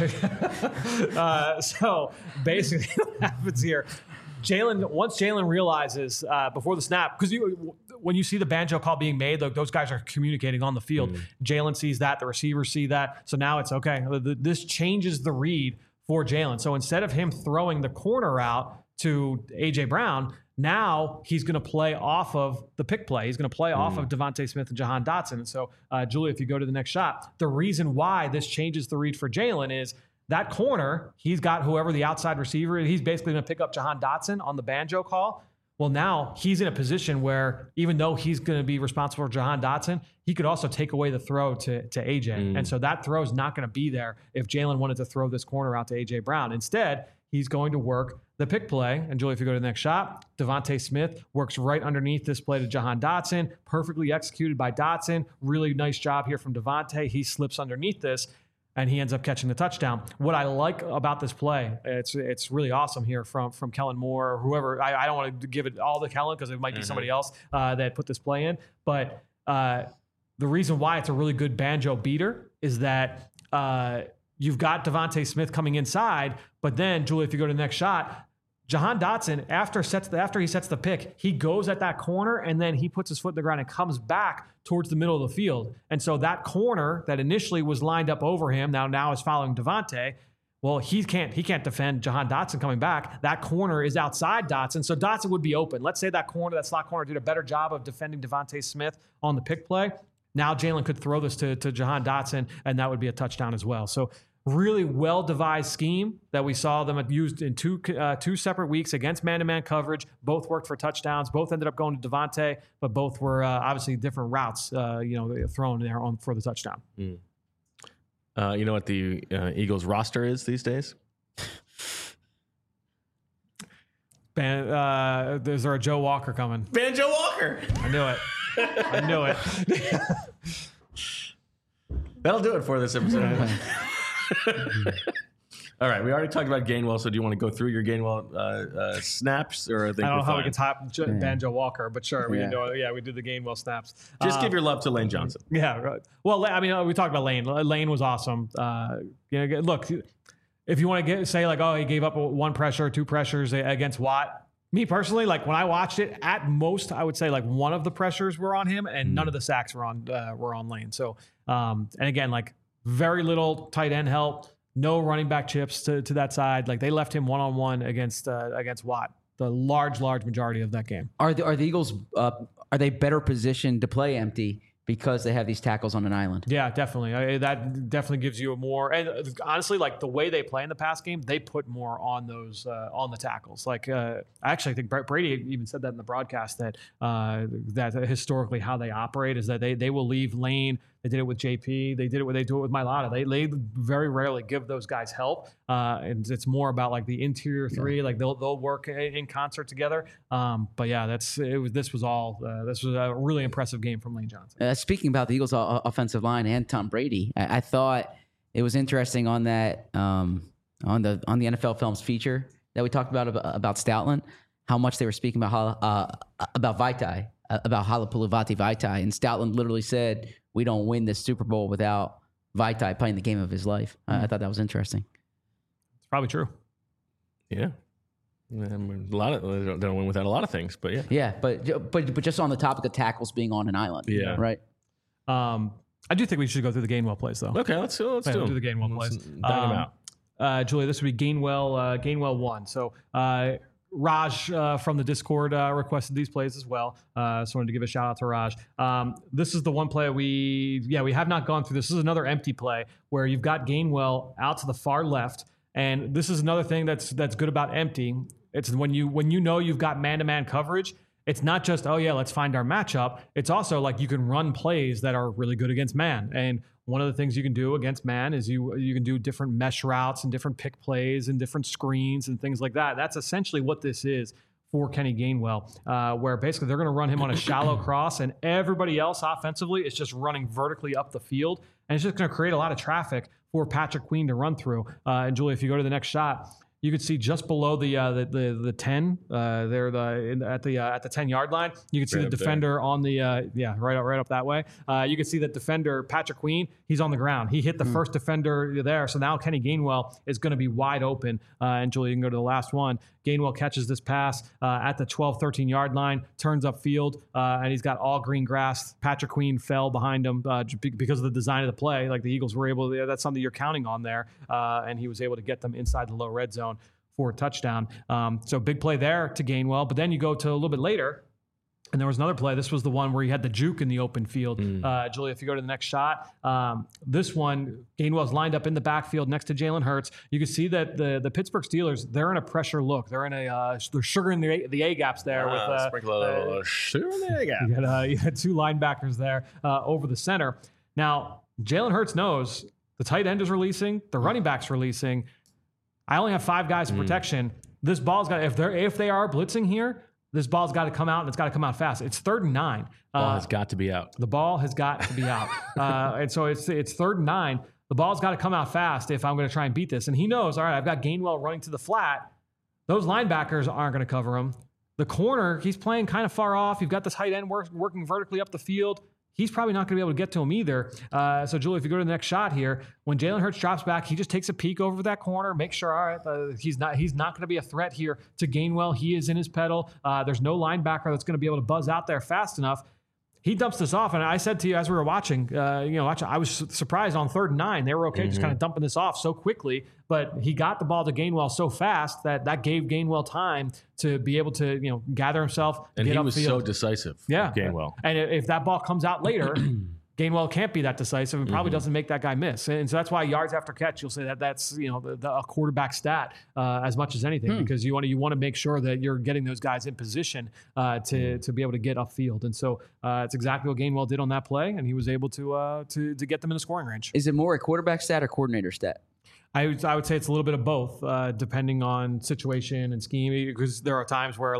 basically what happens here, once Jalen realizes before the snap, because when you see the banjo call being made, those guys are communicating on the field. Jalen sees that, the receivers see that. So now it's okay. This changes the read for Jalen. So instead of him throwing the corner out to A.J. Brown, now he's going to play off of the pick play. He's going to play off of Devontae Smith and Jahan Dotson. And so, Julia, if you go to the next shot, the reason why this changes the read for Jalen is that corner, he's got whoever the outside receiver is. He's basically going to pick up Jahan Dotson on the banjo call. Well, now he's in a position where even though he's going to be responsible for Jahan Dotson, he could also take away the throw to AJ. And so that throw is not going to be there if Jalen wanted to throw this corner out to AJ Brown. Instead, he's going to work the pick play. And Julie, if you go to the next shot, Devontae Smith works right underneath this play to Jahan Dotson, perfectly executed by Dotson. Really nice job here from Devontae. He slips underneath this, and he ends up catching the touchdown. What I like about this play, it's really awesome here from Kellen Moore or whoever. I don't want to give it all to Kellen because it might be somebody else that put this play in. But the reason why it's a really good banjo beater is that you've got Devontae Smith coming inside, but then, Julie, if you go to the next shot, Jahan Dotson, after he sets the pick, he goes at that corner and then he puts his foot in the ground and comes back towards the middle of the field. And so that corner that initially was lined up over him now is following Devontae. Well, he can't defend Jahan Dotson coming back. That corner is outside Dotson, so Dotson would be open. Let's say that slot corner did a better job of defending Devontae Smith on the pick play. Now Jalen could throw this to Jahan Dotson, and that would be a touchdown as well. So really well-devised scheme that we saw them used in two separate weeks against man-to-man coverage. Both worked for touchdowns. Both ended up going to Devontae, but both were obviously different routes, thrown there for the touchdown. You know what the Eagles roster is these days? Is there a Joe Walker coming? Banjo Walker. I knew it. I knew it. That'll do it for this episode. All right, we already talked about Gainwell, so do you want to go through your Gainwell snaps? Or I don't know how we can top Banjo Walker, but sure, we did the Gainwell snaps. Just give your love to Lane Johnson. Yeah, right. Well, I mean, we talked about Lane. Lane was awesome. Look, if you want to say like, oh, he gave up one pressure, two pressures against Watt. Me personally, like when I watched it, at most I would say like one of the pressures were on him, and none of the sacks were on Lane. So, and again, like very little tight end help, no running back chips to that side. Like they left him one-on-one against Watt the large majority of that game. Are the Eagles are they better positioned to play empty because they have these tackles on an island? Yeah, definitely. That definitely gives you a more, and honestly, like the way they play in the pass game, they put more on those on the tackles. Like I actually think Brady even said that in the broadcast that historically how they operate is that they will leave Lane. They did it with JP. They do it with Mailata. They very rarely give those guys help, and it's more about like the interior three. Yeah. Like they'll work in concert together. But yeah, this was a really impressive game from Lane Johnson. Speaking about the Eagles' offensive line and Tom Brady, I thought it was interesting on that on the NFL Films feature that we talked about Stoutland, how much they were speaking about Vaitai, about Halapoulivaati Vaitai, and Stoutland literally said, "We don't win this Super Bowl without Vaitai playing the game of his life." I thought that was interesting. It's probably true. Yeah. A lot of they don't win without a lot of things, but yeah. Yeah, but just on the topic of tackles being on an island. Yeah. Right. I do think we should go through the Gainwell plays though. Okay, let's do the Gainwell plays. Dive them out. Julia, this would be Gainwell 1. So Raj from the Discord requested these plays as well. So I wanted to give a shout out to Raj. This is the one play we have not gone through. This is another empty play where you've got Gainwell out to the far left. And this is another thing that's good about empty. It's when you know you've got man-to-man coverage, it's not just, oh yeah, let's find our matchup. It's also like you can run plays that are really good against man. And one of the things you can do against man is you can do different mesh routes and different pick plays and different screens and things like that. That's essentially what this is for Kenny Gainwell, where basically they're going to run him on a shallow cross and everybody else offensively is just running vertically up the field. And it's just going to create a lot of traffic for Patrick Queen to run through. And Julie, if you go to the next shot, you could see just below the 10 there at the 10-yard line. You can see the defender on the right up that way. You can see that defender Patrick Queen. He's on the ground. He hit the first defender there. So now Kenny Gainwell is going to be wide open. And Julie, you can go to the last one. Gainwell catches this pass at the 12, 13-yard line, turns upfield, and he's got all green grass. Patrick Queen fell behind him because of the design of the play. Like the Eagles were able to, that's something you're counting on there. And he was able to get them inside the low red zone for a touchdown. So big play there to Gainwell. But then you go to a little bit later, and there was another play. This was the one where he had the juke in the open field. Julia, if you go to the next shot, this one, Gainwell's lined up in the backfield next to Jalen Hurts. You can see that the Pittsburgh Steelers, they're in a pressure look. They're in they're sugaring the A gaps there with sprinkle a little sugar in the A gap. You had two linebackers there over the center. Now Jalen Hurts knows the tight end is releasing, the running back's releasing. I only have 5 guys in protection. This ball's got if they are blitzing here. This ball's got to come out, and it's got to come out fast. It's 3rd and 9. Ball has got to be out. The ball has got to be out. And so it's 3rd and 9. The ball's got to come out fast if I'm going to try and beat this. And he knows, all right, I've got Gainwell running to the flat. Those linebackers aren't going to cover him. The corner, he's playing kind of far off. You've got this tight end working vertically up the field. He's probably not going to be able to get to him either. So, Julie, if you go to the next shot here, when Jalen Hurts drops back, he just takes a peek over that corner, make sure, all right, he's not going to be a threat here to Gainwell. He is in his pedal. There's no linebacker that's going to be able to buzz out there fast enough. He dumps this off, and I said to you as we were watching, I was surprised on 3rd and 9. They were okay just kind of dumping this off so quickly, but he got the ball to Gainwell so fast that gave Gainwell time to be able to gather himself. And get he was upfield. so decisive. Yeah, Gainwell. And if that ball comes out later, Gainwell can't be that decisive and probably doesn't make that guy miss. And so that's why yards after catch, you'll say that's a quarterback stat as much as anything, because you want to make sure that you're getting those guys in position to be able to get upfield. And so it's exactly what Gainwell did on that play, and he was able to get them in the scoring range. Is it more a quarterback stat or coordinator stat? I would say it's a little bit of both, depending on situation and scheme, because there are times where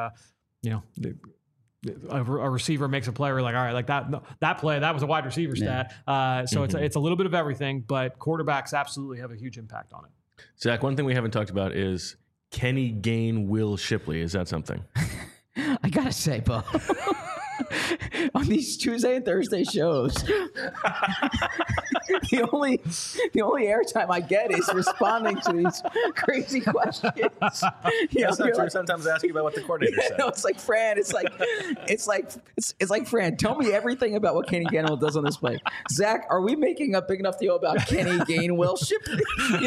a receiver makes a play, we're like, all right, like that play, that was a wide receiver stat. So it's a little bit of everything, but quarterbacks absolutely have a huge impact on it. Zach, one thing we haven't talked about is Kenny Will Shipley. Is that something? I gotta say, Bo, on these Tuesday and Thursday shows, the only airtime I get is responding to these crazy questions. That's not true. Sometimes I ask you about what the coordinator said. No, it's like Fran. It's like Fran. Tell me everything about what Kenny Gainwell does on this play. Zach, are we making a big enough deal about Kenny Gainwell Shipley?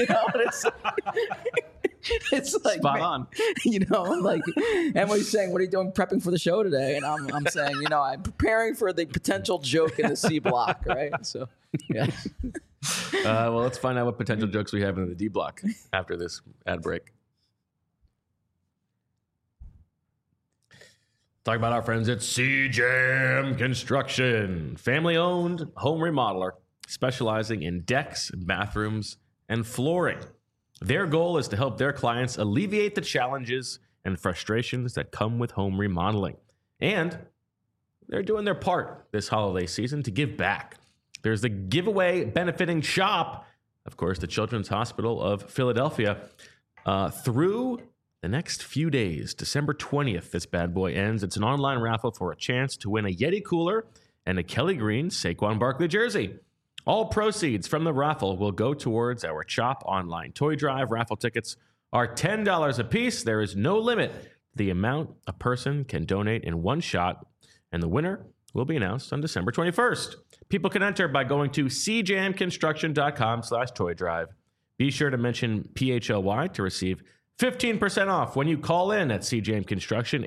It's like spot on. Like Emily's saying, "What are you doing prepping for the show today?" And I'm saying, I'm preparing for the potential joke in the C block, right? So, yeah. Well, let's find out what potential jokes we have in the D block after this ad break. Talk about our friends at CJAM Construction, family-owned home remodeler specializing in decks, bathrooms, and flooring. Their goal is to help their clients alleviate the challenges and frustrations that come with home remodeling. And they're doing their part this holiday season to give back. There's the giveaway benefiting shop, of course, the Children's Hospital of Philadelphia, through the next few days. December 20th, this bad boy ends. It's an online raffle for a chance to win a Yeti cooler and a Kelly Green Saquon Barkley jersey. All proceeds from the raffle will go towards our CHOP Online Toy Drive. Raffle tickets are $10 a piece. There is no limit to the amount a person can donate in one shot, and the winner will be announced on December 21st. People can enter by going to cjamconstruction.com/toy drive. Be sure to mention PHLY to receive 15% off when you call in at CJAM Construction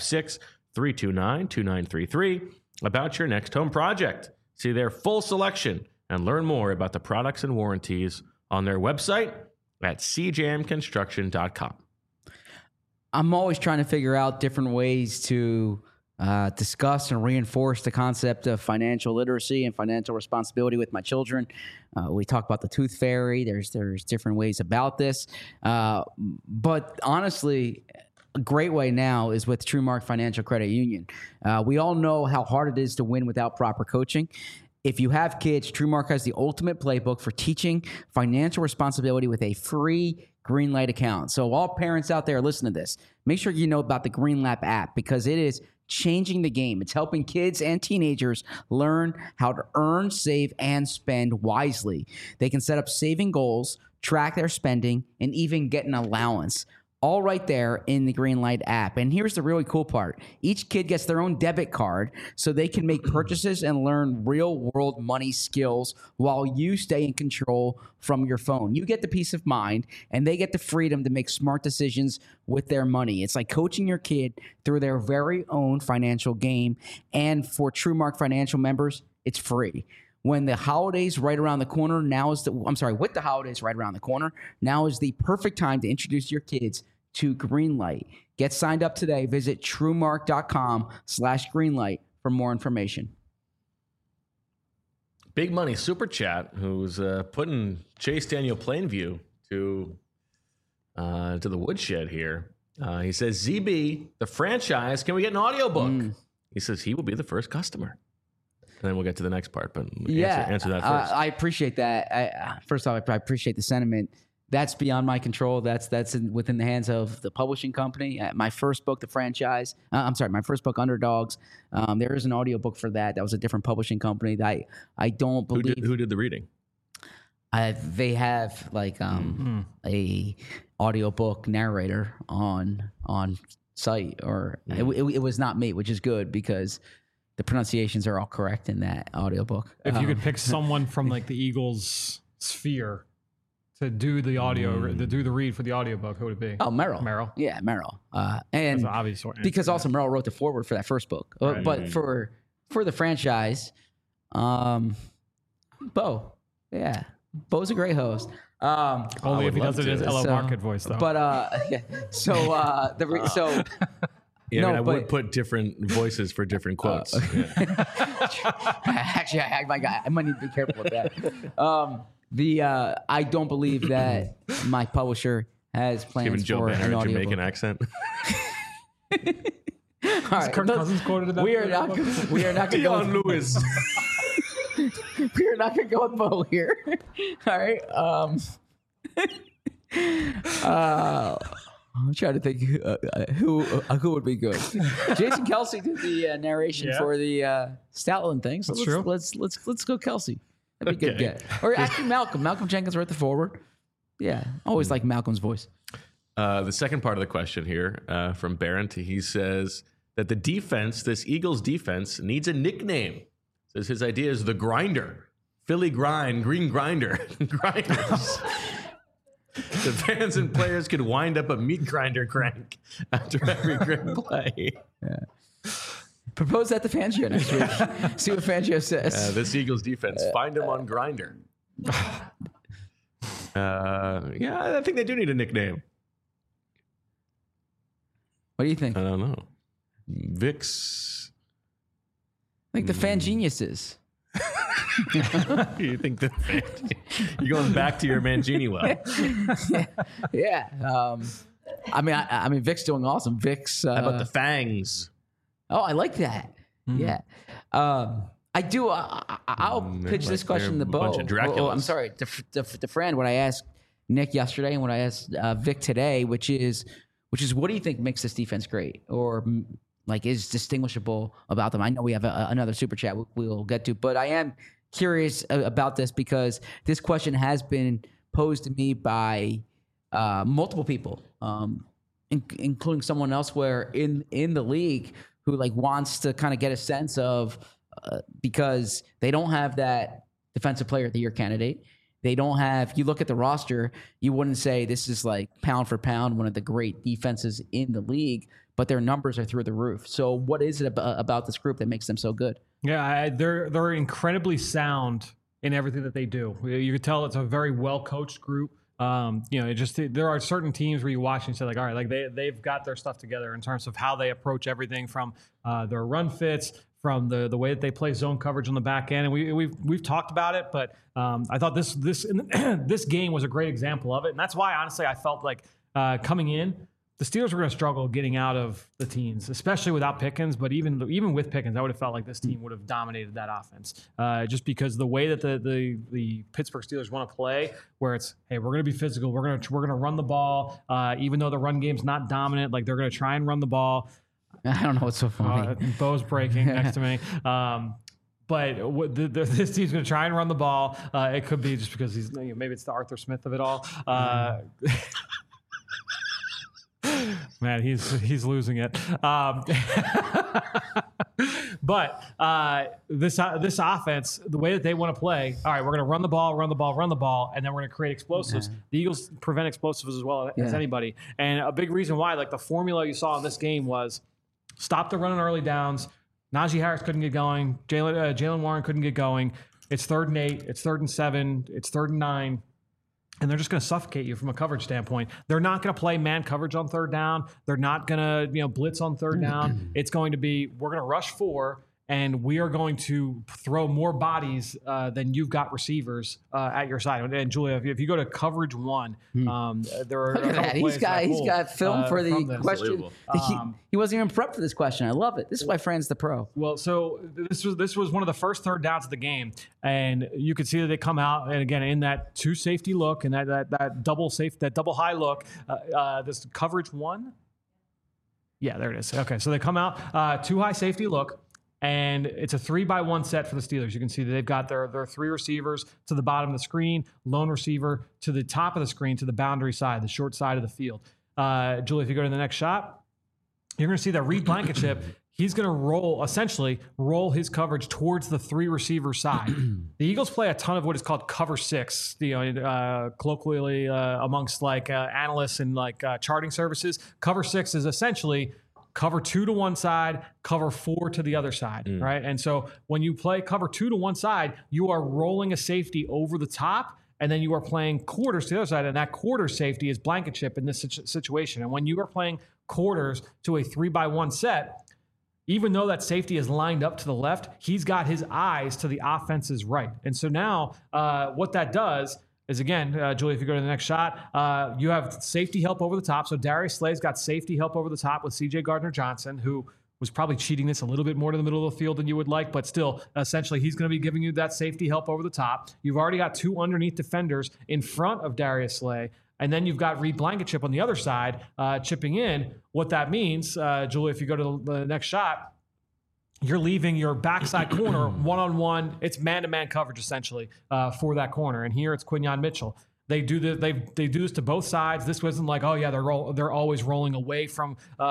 856-329-2933 about your next home project. See their full selection and learn more about the products and warranties on their website at cjamconstruction.com. I'm always trying to figure out different ways to discuss and reinforce the concept of financial literacy and financial responsibility with my children. We talk about the tooth fairy. There's different ways about this. But honestly, a great way now is with TrueMark Financial Credit Union. We all know how hard it is to win without proper coaching. If you have kids, TrueMark has the ultimate playbook for teaching financial responsibility with a free Greenlight account. So all parents out there, listen to this. Make sure you know about the Greenlight app because it is changing the game. It's helping kids and teenagers learn how to earn, save, and spend wisely. They can set up saving goals, track their spending, and even get an allowance. All right there in the Greenlight app. And here's the really cool part. Each kid gets their own debit card so they can make purchases and learn real-world money skills while you stay in control from your phone. You get the peace of mind, and they get the freedom to make smart decisions with their money. It's like coaching your kid through their very own financial game. And for TrueMark Financial members, it's free. When the holidays right around the corner, with the holidays right around the corner, now is the perfect time to introduce your kids to Greenlight. Get signed up today. Visit TrueMark.com/Greenlight for more information. Big Money Super Chat, who's putting Chase Daniel Plainview to the woodshed here. He says, ZB, the franchise, can we get an audiobook? He says he will be the first customer. And then we'll get to the next part, but answer that first. I appreciate that. First off, I appreciate the sentiment. That's beyond my control. That's within the hands of the publishing company. My first book, The Franchise. My first book, Underdogs. There is an audiobook for that. That was a different publishing company. That I don't believe. Who did the reading? They have like a audiobook narrator on site, or it was not me, which is good because the pronunciations are all correct in that audiobook. If you could pick someone from like the Eagles sphere to do the audio, to do the read for the audiobook, who would it be? Oh, Merrill. Merrill. Yeah, Merrill. And That's an obvious answer, because also Merrill wrote the foreword for that first book. Right. But for the franchise, Bo. Yeah. Bo's a great host. Only if he does it as LO Market voice, though. But Yeah, I would put different voices for different quotes. Actually, I might need to be careful with that. I don't believe that my publisher has plans Giving Joe for Banner an a audiobook. Jamaican accent. All right, Kirk Cousins quoted in that. we are not going to go. Dion Lewis. We are not going to go with Bo here. All right. I'm trying to think who would be good. Jason Kelsey did the narration for the Stoutland thing. So let's go Kelsey. That'd be a good get. Or actually Malcolm. Malcolm Jenkins wrote the foreword. Yeah, always like Malcolm's voice. The second part of the question here from Barrett, he says that the defense, this Eagles defense, needs a nickname. Says his idea is the Grinder. Philly Grind, Green Grinder, Grinders. The fans and players could wind up a meat grinder crank after every great play. Yeah. Propose that to Fangio next week. See what Fangio says. This Eagles defense, find him on Grinder. I think they do need a nickname. What do you think? I don't know. Vix. I think the Fan Geniuses. You think that you're going back to your Mangini well? Yeah. I mean, Vic's doing awesome. Vic's. How about the Fangs? Oh, I like that. Mm-hmm. Yeah. I do. I'll pitch this question to Bo. Bunch of Draculas. I'm sorry, to Fran. What I asked Nick yesterday and what I asked Vic today, which is, what do you think makes this defense great, or like is distinguishable about them? I know we have another super chat we'll get to, but I am curious about this because this question has been posed to me by multiple people, including someone elsewhere in the league who like wants to kind of get a sense of because they don't have that defensive player of the year candidate. They don't have, you look at the roster, you wouldn't say this is like pound for pound one of the great defenses in the league, but their numbers are through the roof. So what is it about this group that makes them so good? Yeah, they're incredibly sound in everything that they do. You could tell it's a very well coached group. There are certain teams where you watch and say like, all right, like they've got their stuff together in terms of how they approach everything from their run fits, from the way that they play zone coverage on the back end, and we've talked about it. But I thought this game was a great example of it, and that's why honestly I felt like coming in the Steelers were going to struggle getting out of the teens, especially without Pickens. But even with Pickens, I would have felt like this team would have dominated that offense, just because the way that the Pittsburgh Steelers want to play, where it's, hey, we're going to be physical, we're going to run the ball, even though the run game's not dominant, like they're going to try and run the ball. I don't know what's so funny. Bo's breaking next to me. But this team's going to try and run the ball. It could be just because maybe it's the Arthur Smith of it all. Man, he's losing it. But this offense, the way that they want to play, all right, we're going to run the ball, and then we're going to create explosives. The Eagles prevent explosives as well as anybody. And a big reason why, like the formula you saw in this game was stop the run on early downs. Najee Harris couldn't get going. Jaylen Warren couldn't get going. It's 3rd and 8. It's 3rd and 7. It's 3rd and 9. And they're just going to suffocate you from a coverage standpoint. They're not going to play man coverage on 3rd down. They're not going to blitz on 3rd down. It's going to be, we're going to rush 4, and we are going to throw more bodies than you've got receivers at your side. And Julia, if you go to coverage 1, there are Look at that. He's got film for the question. He wasn't even prepped for this question. I love it. This is why Fran's the pro. Well, so this was one of the first 3rd downs of the game, and you could see that they come out, and again in that 2 safety look and that double high look, this coverage 1. Yeah, there it is. Okay, so they come out 2 high safety look. And it's a 3-by-1 set for the Steelers. You can see that they've got their 3 receivers to the bottom of the screen, lone receiver to the top of the screen to the boundary side, the short side of the field. Julie, if you go to the next shot, you're going to see that Reed Blankenship, he's going to roll his coverage towards the 3 receiver side. The Eagles play a ton of what is called cover 6, colloquially amongst like analysts and like charting services. Cover 6 is essentially cover 2 to one side, cover 4 to the other side, right? And so when you play cover 2 to one side, you are rolling a safety over the top, and then you are playing quarters to the other side, and that quarter safety is Blankenship in this situation. And when you are playing quarters to a 3-by-1 set, even though that safety is lined up to the left, he's got his eyes to the offense's right. And so now what that does is, again, Julie, if you go to the next shot, you have safety help over the top. So Darius Slay's got safety help over the top with C.J. Gardner-Johnson, who was probably cheating this a little bit more to the middle of the field than you would like, but still, essentially, he's going to be giving you that safety help over the top. You've already got 2 underneath defenders in front of Darius Slay, and then you've got Reed Blankenship on the other side chipping in. What that means, Julie, if you go to the next shot, you're leaving your backside corner one-on-one. It's man-to-man coverage essentially for that corner. And here it's Quinyon Mitchell. They do this to both sides. This wasn't like, oh yeah, they're always rolling away from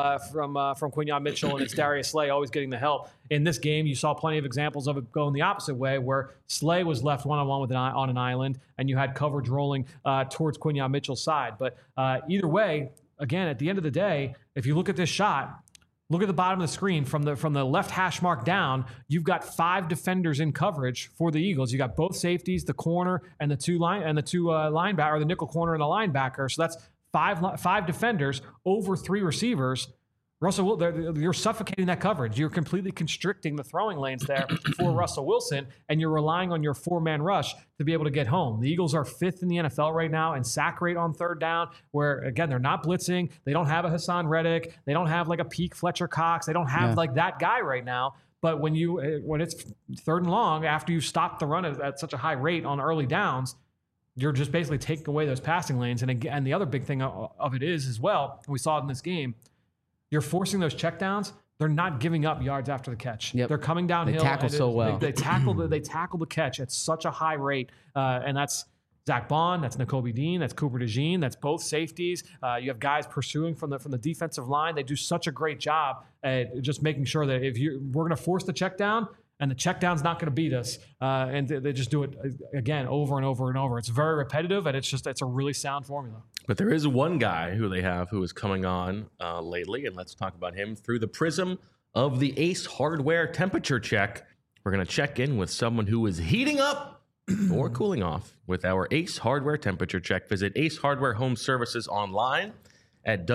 Quinyon Mitchell, and it's Darius Slay always getting the help. In this game, you saw plenty of examples of it going the opposite way, where Slay was left one-on-one on an island, and you had coverage rolling towards Quinyon Mitchell's side. But either way, again, at the end of the day, if you look at this shot. Look at the bottom of the screen from the left hash mark down. You've got 5 defenders in coverage for the Eagles. You got both safeties, the corner, and the two linebacker, or the nickel corner and the linebacker. So that's five defenders over 3 receivers. Russell, you're suffocating that coverage. You're completely constricting the throwing lanes there for Russell Wilson, and you're relying on your 4-man rush to be able to get home. The Eagles are 5th in the NFL right now in sack rate on 3rd down, where, again, they're not blitzing. They don't have a Hassan Reddick. They don't have like a peak Fletcher Cox. They don't have like that guy right now. But when it's 3rd and long, after you stop the run at such a high rate on early downs, you're just basically taking away those passing lanes. And again, the other big thing of it is as well, and we saw it in this game, you're forcing those checkdowns. They're not giving up yards after the catch. Yep. They're coming downhill. They tackle so well. They tackle the catch at such a high rate, and that's Zach Bond, that's Nakobe Dean, that's Cooper DeJean, that's both safeties. You have guys pursuing from the defensive line. They do such a great job at just making sure that we're going to force the check down, and the check down's not going to beat us. And they just do it again over and over and over. It's very repetitive, and it's a really sound formula. But there is one guy who they have who is coming on lately, and let's talk about him through the prism of the Ace Hardware temperature check. We're going to check in with someone who is heating up or cooling off with our Ace Hardware temperature check. Visit Ace Hardware Home Services online at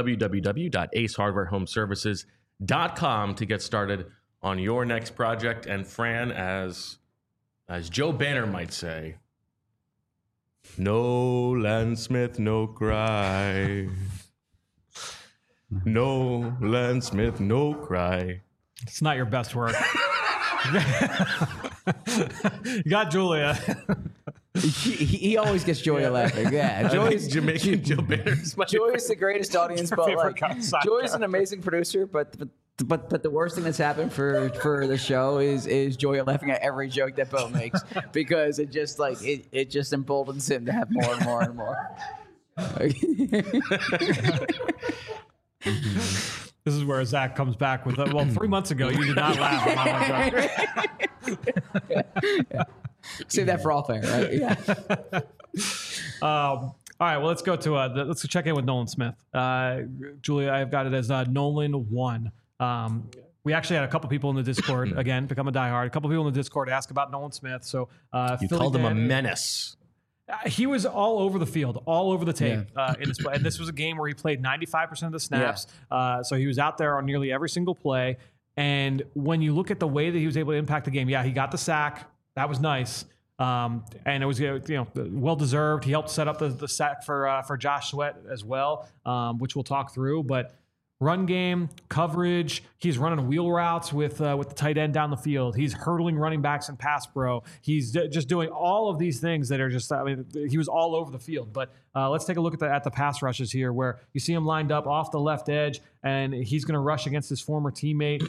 www.aceHardwareHomeservices.com to get started on your next project. And Fran, as Joe Banner might say, no Lance Smith, no cry. Nolan Smith, no cry. It's not your best work. You got Julia. He always gets Joya laughing. Yeah, Joy's Jamaican Joe Bears. Joy's the greatest audience, but favorite like side Joy's an amazing producer. But the worst thing that's happened for the show is Joya laughing at every joke that Bo makes because it just like it just emboldens him to have more and more and more. This is where Zach comes back with, 3 months ago, you did not laugh at my joke. Save that for all fair, right? Yeah. All right, well, let's go to let's check in with Nolan Smith. Julia, I've got it as Nolan 1. We actually had a couple people in the Discord, again, become a diehard. A couple people in the Discord ask about Nolan Smith. So You called him a menace. He was all over the field, all over the tape in this play. And this was a game where he played 95% of the snaps. So he was out there on nearly every single play. And when you look at the way that he was able to impact the game, he got the sack. That was nice. And it was well deserved. He helped set up the sack for Josh Sweat as well, which we'll talk through. But run game, coverage, he's running wheel routes with the tight end down the field. He's hurdling running backs in pass pro. He's just doing all of these things that are just, he was all over the field. But let's take a look at the pass rushes here where you see him lined up off the left edge and he's going to rush against his former teammate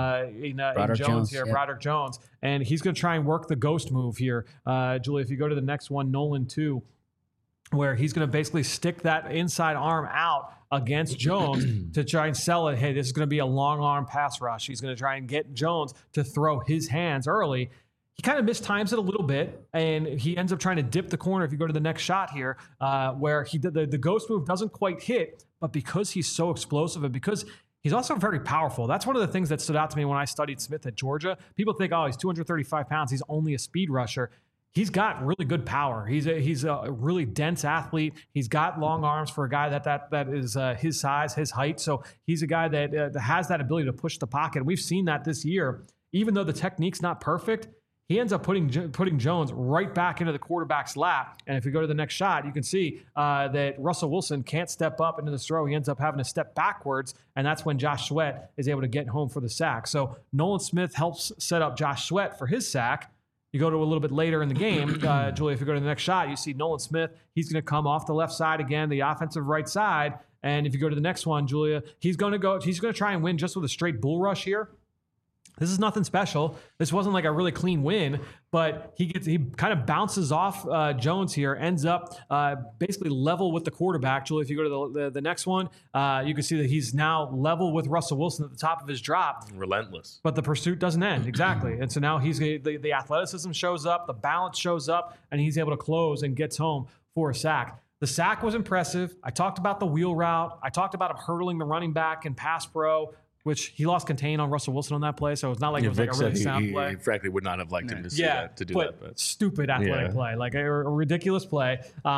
in Jones here, Broderick Jones. And he's going to try and work the ghost move here. Julie, if you go to the next one, Nolan 2, where he's going to basically stick that inside arm out against Jones to try and sell it. Hey, this is going to be a long arm pass rush. He's going to try and get Jones to throw his hands early. He kind of mistimes it a little bit, and he ends up trying to dip the corner. If you go to the next shot here, where he did the ghost move doesn't quite hit, but because he's so explosive and because he's also very powerful. That's one of the things that stood out to me when I studied Smith at Georgia. People think, oh, he's 235 pounds. He's only a speed rusher. He's got really good power. He's a really dense athlete. He's got long arms for a guy that is his size, his height. So he's a guy that has that ability to push the pocket. We've seen that this year. Even though the technique's not perfect, he ends up putting Jones right back into the quarterback's lap. And if you go to the next shot, you can see that Russell Wilson can't step up into this throw. He ends up having to step backwards, and that's when Josh Sweat is able to get home for the sack. So Nolan Smith helps set up Josh Sweat for his sack. You go to a little bit later in the game, Julie, if you go to the next shot, you see Nolan Smith. He's going to come off the left side again, the offensive right side. And if you go to the next one, Julia, he's going to try and win just with a straight bull rush here. This is nothing special. This wasn't like a really clean win, but he kind of bounces off Jones here, ends up basically level with the quarterback. Julie, if you go to the next one, you can see that he's now level with Russell Wilson at the top of his drop. Relentless. But the pursuit doesn't end, exactly. And so now the athleticism shows up, the balance shows up, and he's able to close and gets home for a sack. The sack was impressive. I talked about the wheel route. I talked about him hurdling the running back in pass pro, which he lost contain on Russell Wilson on that play, so it's not like it was like a really sound play. He frankly would not have liked him to do that. But stupid athletic play, like a ridiculous play.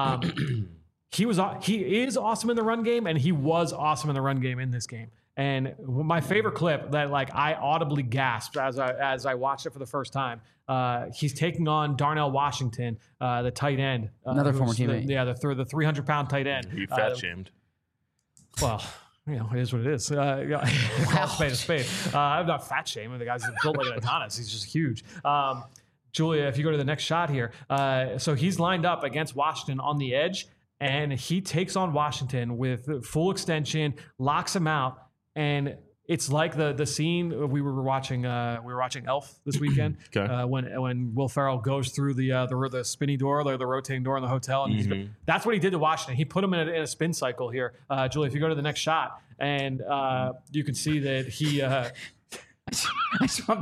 He is awesome in the run game, and he was awesome in the run game in this game. And my favorite clip that like I audibly gasped as I watched it for the first time. He's taking on Darnell Washington, the tight end, another former teammate. The 300-pound tight end. He fat shamed. Well. It is what it is. Call spade a spade. I'm not fat shaming. The guy's built like an Adonis. He's just huge. Julia, if you go to the next shot here, so he's lined up against Washington on the edge, and he takes on Washington with full extension, locks him out, and it's like the scene we were watching. We were watching Elf this weekend. Okay. When Will Ferrell goes through the spinny door, the rotating door in the hotel, and that's what he did to Washington. He put him in a spin cycle here. Julie, if you go to the next shot, and you can see that he. I saw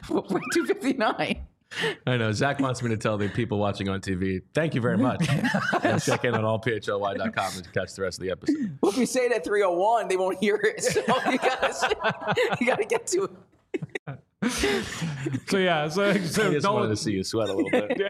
259. I know. Zach wants me to tell the people watching on TV, thank you very much. And check in on allphly.com to catch the rest of the episode. Well, if you say it at 3:01, they won't hear it. So you gotta get to it. So I just wanted to see you sweat a little bit.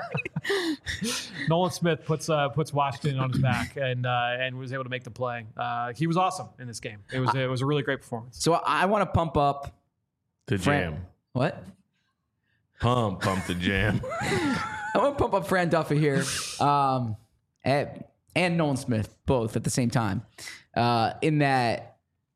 Nolan Smith puts Washington on his back and was able to make the play. He was awesome in this game. It was a really great performance. So I want to pump up the jam. What? Pump the jam. I want to pump up Fran Duffy here, and Nolan Smith both at the same time. In that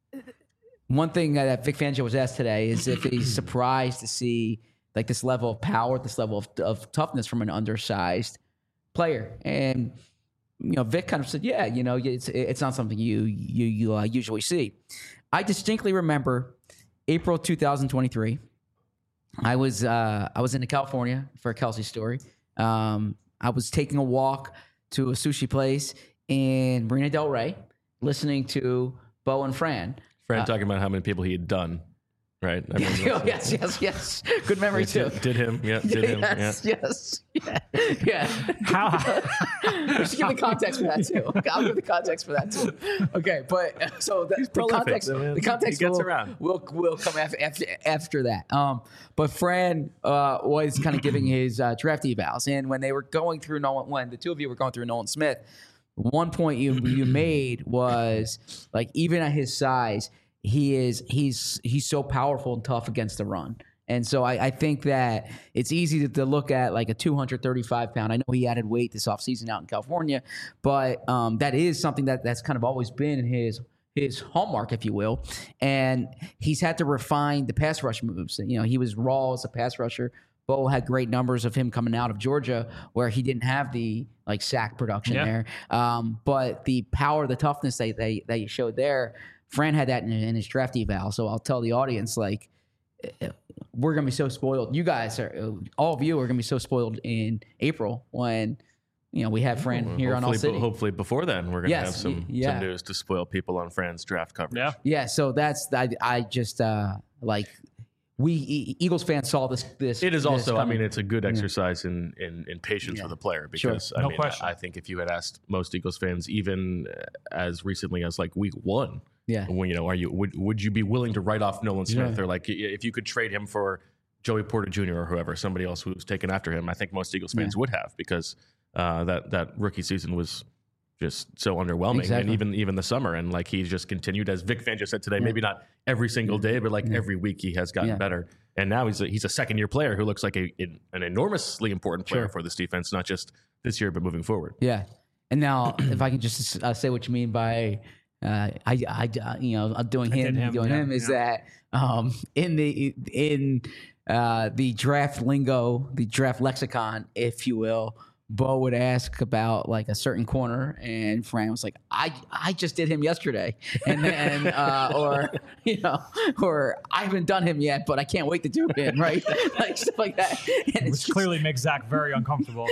one thing that Vic Fangio was asked today is if he's surprised to see like this level of power, this level of toughness from an undersized player. And, Vic kind of said, yeah, it's not something you usually see. I distinctly remember April 2023. I was in California for a Kelsey story. I was taking a walk to a sushi place in Marina Del Rey, listening to Bo and Fran. Fran talking about how many people he had done, right? I remember Yes. Good memory too. Did him? Yeah. Did him? Yes. Yeah. How? Just give the context for that too. I'll give the context for that too. Okay, but so the context. The context he gets will, around. will come after that. But Fran was kind of giving his draft evals, and when they were going through when the two of you were going through Nolan Smith. One point you made was like even at his size, he's so powerful and tough against the run. And so I think that it's easy to look at like a 235 pound. I know he added weight this offseason out in California, but that is something that's kind of always been his hallmark, if you will. And he's had to refine the pass rush moves. He was raw as a pass rusher. Bo had great numbers of him coming out of Georgia where he didn't have the sack production there. But the power, the toughness that you showed there, Fran had that in his draft eval. So I'll tell the audience, we're going to be so spoiled. You guys all of you are going to be so spoiled in April when, we have Fran here on All City. Hopefully before then, we're going to have some news to spoil people on Fran's draft coverage. Yeah. So that's, I just we Eagles fans saw this. It is also, it's a good exercise in patience for the player because question. I think if you had asked most Eagles fans, even as recently as week 1, would you be willing to write off Nolan Smith or if you could trade him for Joey Porter Jr. or whoever, somebody else who's taken after him? I think most Eagles fans would have because that rookie season was just so underwhelming, and even the summer, and he's just continued, as Vic Fangio said today, maybe not every single day, but every week he has gotten better, and now he's a second year player who looks like an enormously important player for this defense, not just this year but moving forward. Yeah, and now if I can just say what you mean by doing him is that in the draft lingo, the draft lexicon, if you will. Bo would ask about a certain corner, and Fran was like, "I just did him yesterday," and then or I haven't done him yet, but I can't wait to do him, right? Stuff like that. And Which clearly makes Zach very uncomfortable.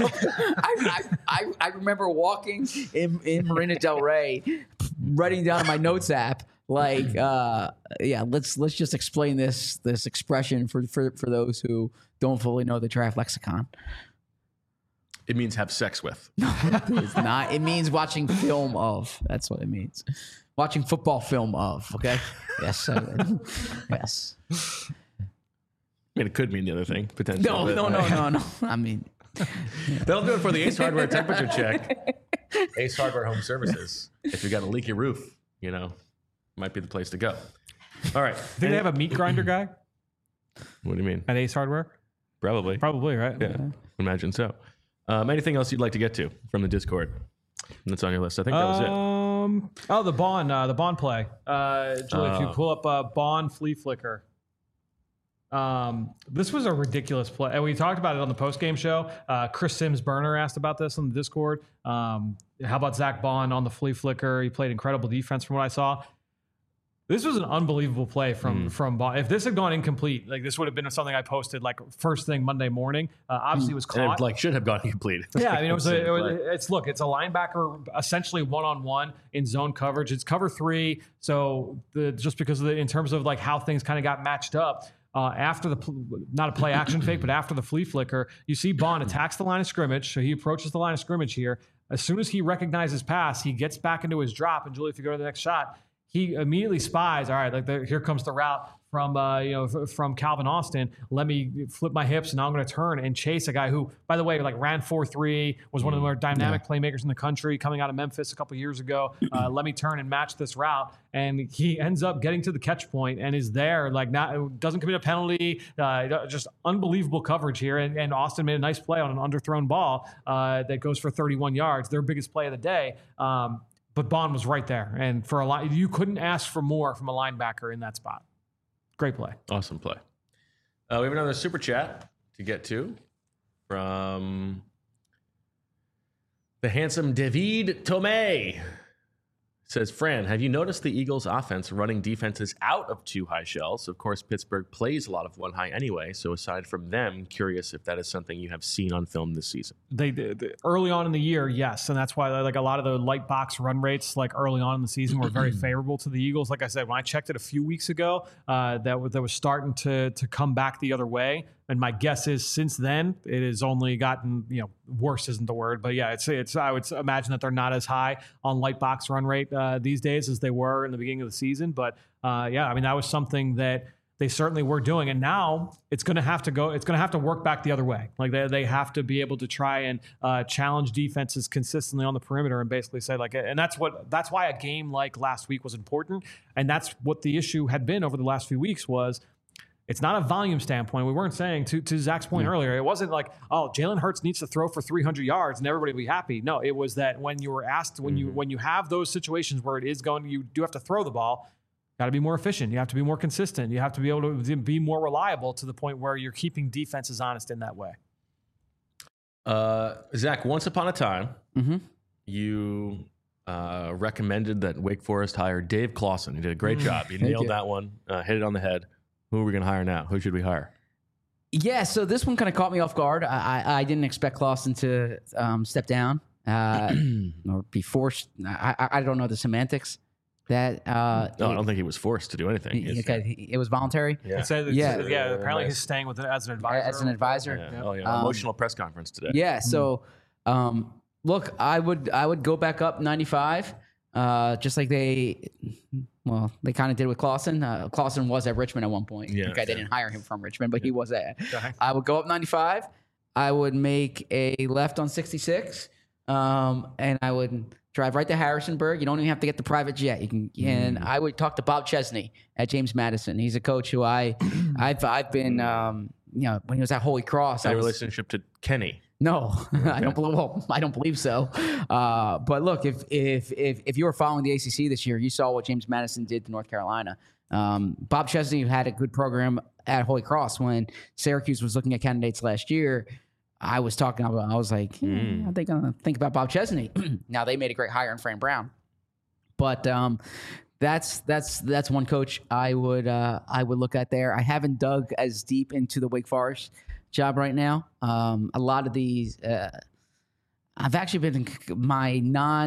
I remember walking in Marina Del Rey, writing down in my notes app. Let's just explain this expression for those who don't fully know the draft lexicon. It means have sex with. It's not. It means watching film of. That's what it means. Watching football film of. Okay. Yes. Yes. It could mean the other thing potentially. No. That'll do it for the Ace Hardware temperature check. Ace Hardware Home Services. If you got a leaky roof, might be the place to go. All right. Think they have a meat grinder guy? What do you mean? At Ace Hardware? Probably, right? Yeah. Imagine so. Anything else you'd like to get to from the Discord that's on your list? I think that was it. The Bond play. Julie, if you pull up Bond Flea Flicker. This was a ridiculous play. And we talked about it on the post-game show. Chris Sims Burner asked about this on the Discord. How about Zach Bond on the Flea Flicker? He played incredible defense from what I saw. This was an unbelievable play from Bond. If this had gone incomplete, this would have been something I posted first thing Monday morning. Obviously, it was caught. And it should have gone incomplete. Yeah, it's a linebacker essentially one-on-one in zone coverage. It's cover 3, so just because of in terms of how things kind of got matched up. After not a play action fake, but after the flea flicker, you see Bond attacks the line of scrimmage. So he approaches the line of scrimmage here. As soon as he recognizes pass, he gets back into his drop. And Julie, if you go to the next shot, he immediately spies, all right, here comes the route from Calvin Austin. Let me flip my hips, and now I'm going to turn and chase a guy who, by the way, ran 4.3, was one of the more dynamic playmakers in the country, coming out of Memphis a couple years ago. Let me turn and match this route, and he ends up getting to the catch point and is there. Doesn't commit a penalty. Just unbelievable coverage here, and Austin made a nice play on an underthrown ball that goes for 31 yards. Their biggest play of the day. but Bond was right there. And for a lot, you couldn't ask for more from a linebacker in that spot. Great play. Awesome play. We have another super chat to get to from the handsome David Tomei. Says, Fran, have you noticed the Eagles' offense running defenses out of two high shells? Of course, Pittsburgh plays a lot of one high anyway. So aside from them, curious if that is something you have seen on film this season. They did early on in the year, yes, and that's why like a lot of the light box run rates like early on in the season were very favorable to the Eagles. Like I said, when I checked it a few weeks ago, that was starting to come back the other way. And my guess is since then it has only gotten, worse isn't the word, but yeah, it's I would imagine that they're not as high on light box run rate these days as they were in the beginning of the season. But yeah, I mean that was something that they certainly were doing, and now it's going to have to go. It's going to have to work back the other way. Like they have to be able to try and challenge defenses consistently on the perimeter and basically say and that's why a game like last week was important, and that's what the issue had been over the last few weeks was. It's not a volume standpoint. We weren't saying, to Zach's point earlier, it wasn't like, oh, Jalen Hurts needs to throw for 300 yards and everybody will be happy. No, it was that when you were asked, when you have those situations where you do have to throw the ball, got to be more efficient. You have to be more consistent. You have to be able to be more reliable to the point where you're keeping defenses honest in that way. Zach, once upon a time, you recommended that Wake Forest hire Dave Clawson. He did a great job. You nailed that one, hit it on the head. Who are we going to hire now? Who should we hire? Yeah, so this one kind of caught me off guard. I didn't expect Clawson to step down or be forced. I don't know the semantics. That no, I don't think he was forced to do anything. It was voluntary. Yeah, apparently he's staying with it as an advisor. As an advisor. Yeah. Oh yeah, emotional press conference today. Yeah. So, look, I would go back up 95, just like they kind of did with Clawson. Clawson was at Richmond at one point. Yeah, they didn't hire him from Richmond, but he was there. I would go up 95. I would make a left on 66, and I would drive right to Harrisonburg. You don't even have to get the private jet. You can, and I would talk to Bob Chesney at James Madison. He's a coach who I've been, when he was at Holy Cross. A relationship to Kenny. No, okay. I don't believe so. But look, if you were following the ACC this year, you saw what James Madison did to North Carolina. Bob Chesney had a good program at Holy Cross when Syracuse was looking at candidates last year. I was like, are they going to think about Bob Chesney? Now they made a great hire in Fran Brown, but that's one coach I would look at there. I haven't dug as deep into the Wake Forest job right now. A lot of these, I've actually been my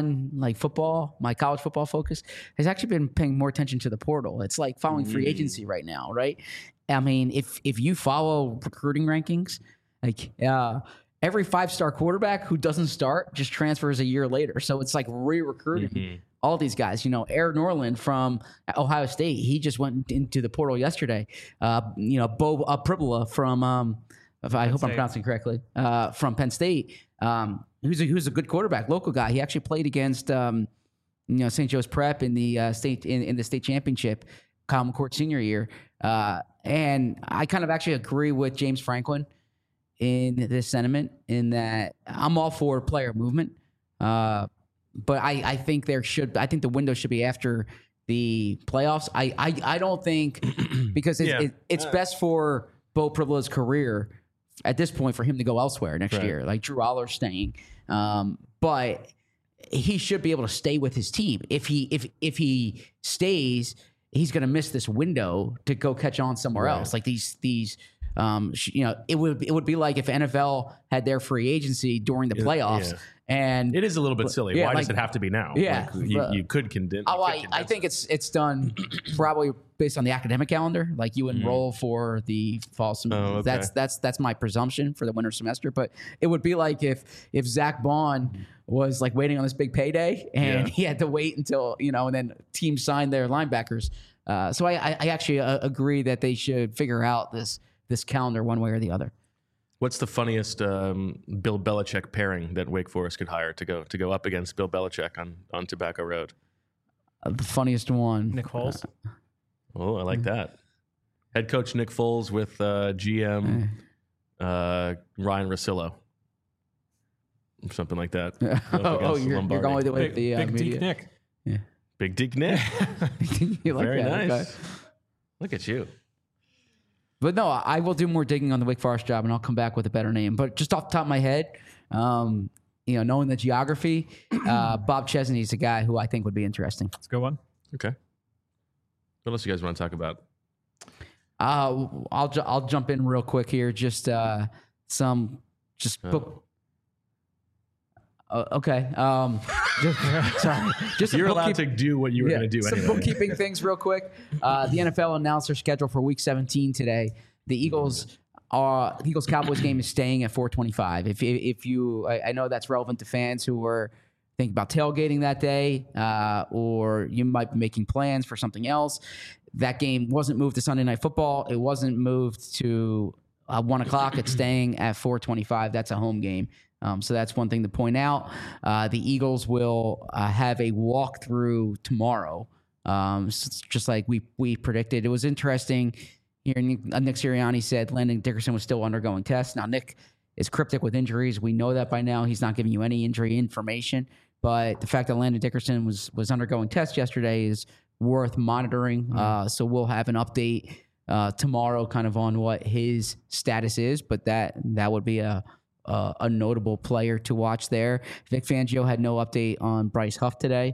my college football focus has actually been paying more attention to the portal. It's like following free agency right now, right? I mean, if you follow recruiting rankings, like every 5-star quarterback who doesn't start just transfers a year later. So it's like re-recruiting all these guys. Aaron Norland from Ohio State, he just went into the portal yesterday. Bo Pribula from I hope I'm pronouncing it correctly, from Penn State, who's a good quarterback, local guy. He actually played against St. Joe's Prep in the state championship, Kyle McCourt senior year. And I kind of actually agree with James Franklin in this sentiment, in that I'm all for player movement, but I think the window should be after the playoffs. I don't think because it's best for Bo Pribula's career at this point for him to go elsewhere next year, like Drew Aller's staying. But he should be able to stay with his team. If he stays, he's going to miss this window to go catch on somewhere else. Like these it would be like if NFL had their free agency during the playoffs. And it is a little bit silly. Why does it have to be now? Yeah, you could condense. I think it's done probably based on the academic calendar. Like you enroll for the fall semester. That's my presumption for the winter semester. But it would be like if Zach Bond was like waiting on this big payday and he had to wait until and then teams signed their linebackers. So I actually agree that they should figure out this calendar one way or the other. What's the funniest Bill Belichick pairing that Wake Forest could hire to go up against Bill Belichick on Tobacco Road? The funniest one, Nick Foles. I like that. Head coach Nick Foles with GM Ryan Russillo, something like that. You're going with the Big media. Nick. Yeah. Big Dick Nick. You like Very that? nice. Okay. Look at you. But no, I will do more digging on the Wake Forest job, and I'll come back with a better name. But just off the top of my head, knowing the geography, Bob Chesney is a guy who I think would be interesting. That's a good one. Okay. What else you guys want to talk about? I'll jump in real quick here. Just book. Okay. Sorry. Just You're allowed to do what you were going to do some anyway. bookkeeping things real quick. The NFL announced their schedule for Week 17 today. The Eagles Cowboys game is staying at 4:25. If you, I know that's relevant to fans who were thinking about tailgating that day, or you might be making plans for something else. That game wasn't moved to Sunday Night Football. It wasn't moved to 1 o'clock. It's staying at 4:25. That's a home game. So that's one thing to point out. The Eagles will have a walkthrough tomorrow, just like we predicted. It was interesting. Here, Nick Sirianni said Landon Dickerson was still undergoing tests. Now, Nick is cryptic with injuries. We know that by now. He's not giving you any injury information. But the fact that Landon Dickerson was undergoing tests yesterday is worth monitoring. So we'll have an update tomorrow kind of on what his status is. But that would be a notable player to watch there. Vic Fangio had no update on Bryce Huff today.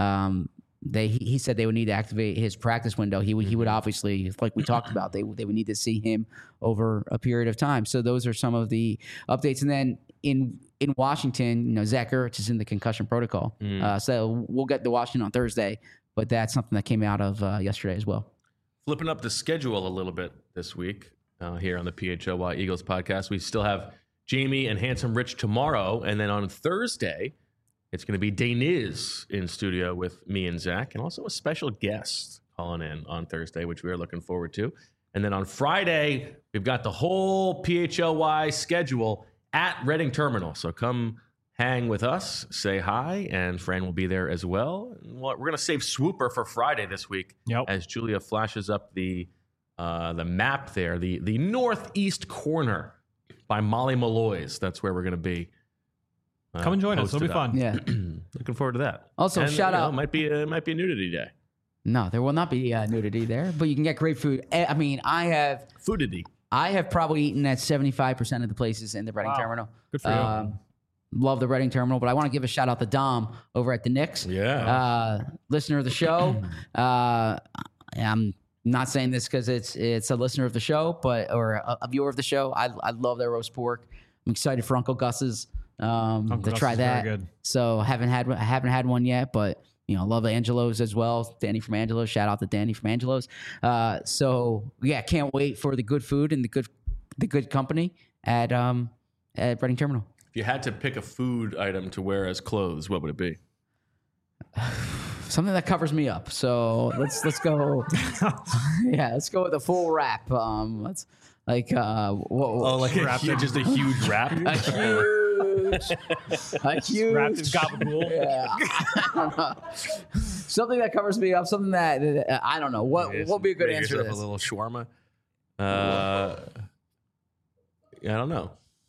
He said they would need to activate his practice window. He would obviously, like we talked about, they would need to see him over a period of time. So those are some of the updates. And then in Washington, Zach Ertz is in the concussion protocol. So we'll get to Washington on Thursday, but that's something that came out of yesterday as well. Flipping up the schedule a little bit this week here on the PHLY Eagles podcast. We still have Jamie and Handsome Rich tomorrow. And then on Thursday, it's going to be Daniz in studio with me and Zach, and also a special guest calling in on Thursday, which we are looking forward to. And then on Friday, we've got the whole PHLY schedule at Reading Terminal. So come hang with us, say hi, and Fran will be there as well. And we're going to save Swooper for Friday this week as Julia flashes up the map there, the northeast corner by Molly Malloy's. That's where we're going to be. Come and join us. It'll be fun. Yeah. Looking forward to that. Also, shout out. It might be a nudity day. No, there will not be nudity there, but you can get great food. I mean, I have probably eaten at 75% of the places in the Reading Terminal. Good for you. Love the Reading Terminal, but I want to give a shout out to Dom over at the Knicks. Yeah. Listener of the show. I'm not saying this because it's a listener of the show, or a viewer of the show. I love their roast pork. I'm excited for Uncle Gus's. To try that. Very good. So haven't had one yet, but love Angelo's as well. Danny from Angelo's. Shout out to Danny from Angelo's. So yeah, can't wait for the good food and the good company at Reading Terminal. If you had to pick a food item to wear as clothes, what would it be? Something that covers me up. So let's go. Yeah, let's go with a full wrap. Let's like just a huge wrap. A huge Wrapped in gabagool. Yeah. Something that covers me up. Something that I don't know. What would be a good Make answer to yourself this? a little shawarma. I don't know.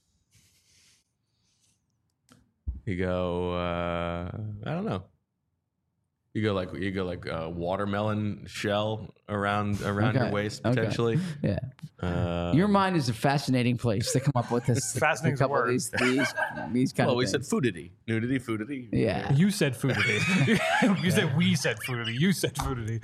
You go. I don't know. You go like a watermelon shell around your waist potentially. Okay. Yeah. Your mind is a fascinating place to come up with this. Fascinating couple of word. these kind Well, of we things. said foodity, nudity, foodity. Yeah. You said foodity. You said we said foodity. You said foodity.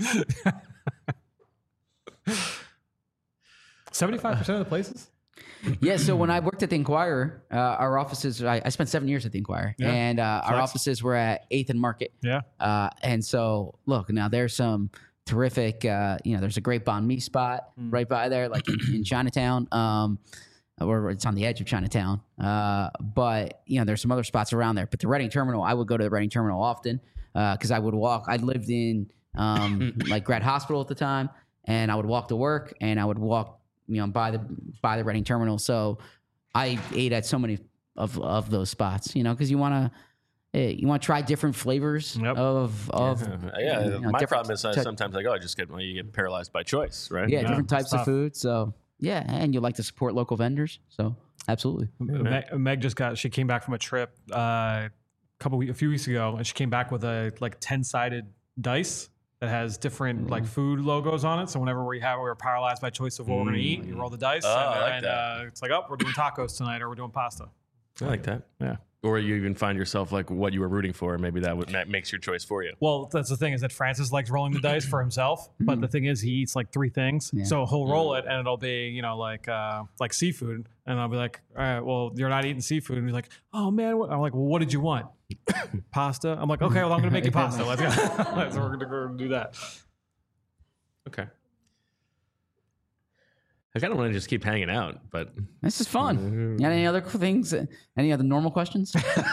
75% of the places? Yeah, so when I worked at the Inquirer, our offices, I spent 7 years at the Inquirer, and our offices were at 8th and Market. Yeah. And so, look, now there's some terrific, there's a great banh mi spot right by there, like in Chinatown, or it's on the edge of Chinatown. But, there's some other spots around there. But the Reading Terminal, I would go to the Reading Terminal often because I would walk. I lived in like Grad Hospital at the time, and I would walk to work, and I would walk by the Reading Terminal. So I ate at so many of those spots, because you want to try different flavors of My problem is sometimes I just you get paralyzed by choice, right? Yeah, different types tough. of food. So yeah, and you like to support local vendors. So absolutely. Meg just she came back from a trip a few weeks ago, and she came back with a like 10-sided dice that has different like food logos on it. So whenever we're paralyzed by choice of what we're going to eat, you roll the dice, and it's like, oh, we're doing tacos tonight, or we're doing pasta. I like that. Yeah. Or you even find yourself like what you were rooting for, and maybe that makes your choice for you. Well, that's the thing, is that Francis likes rolling the dice for himself, but the thing is he eats like 3 things. Yeah. So he'll roll it and it'll be, like seafood. And I'll be like, all right, well, you're not eating seafood. And he's like, oh man. I'm like, well, what did you want? Pasta? I'm like, okay, well, I'm going to make you pasta. Let's go. So we're going to go do that. Okay. I kind of want to just keep hanging out, but this is fun. You got any other things? Any other normal questions?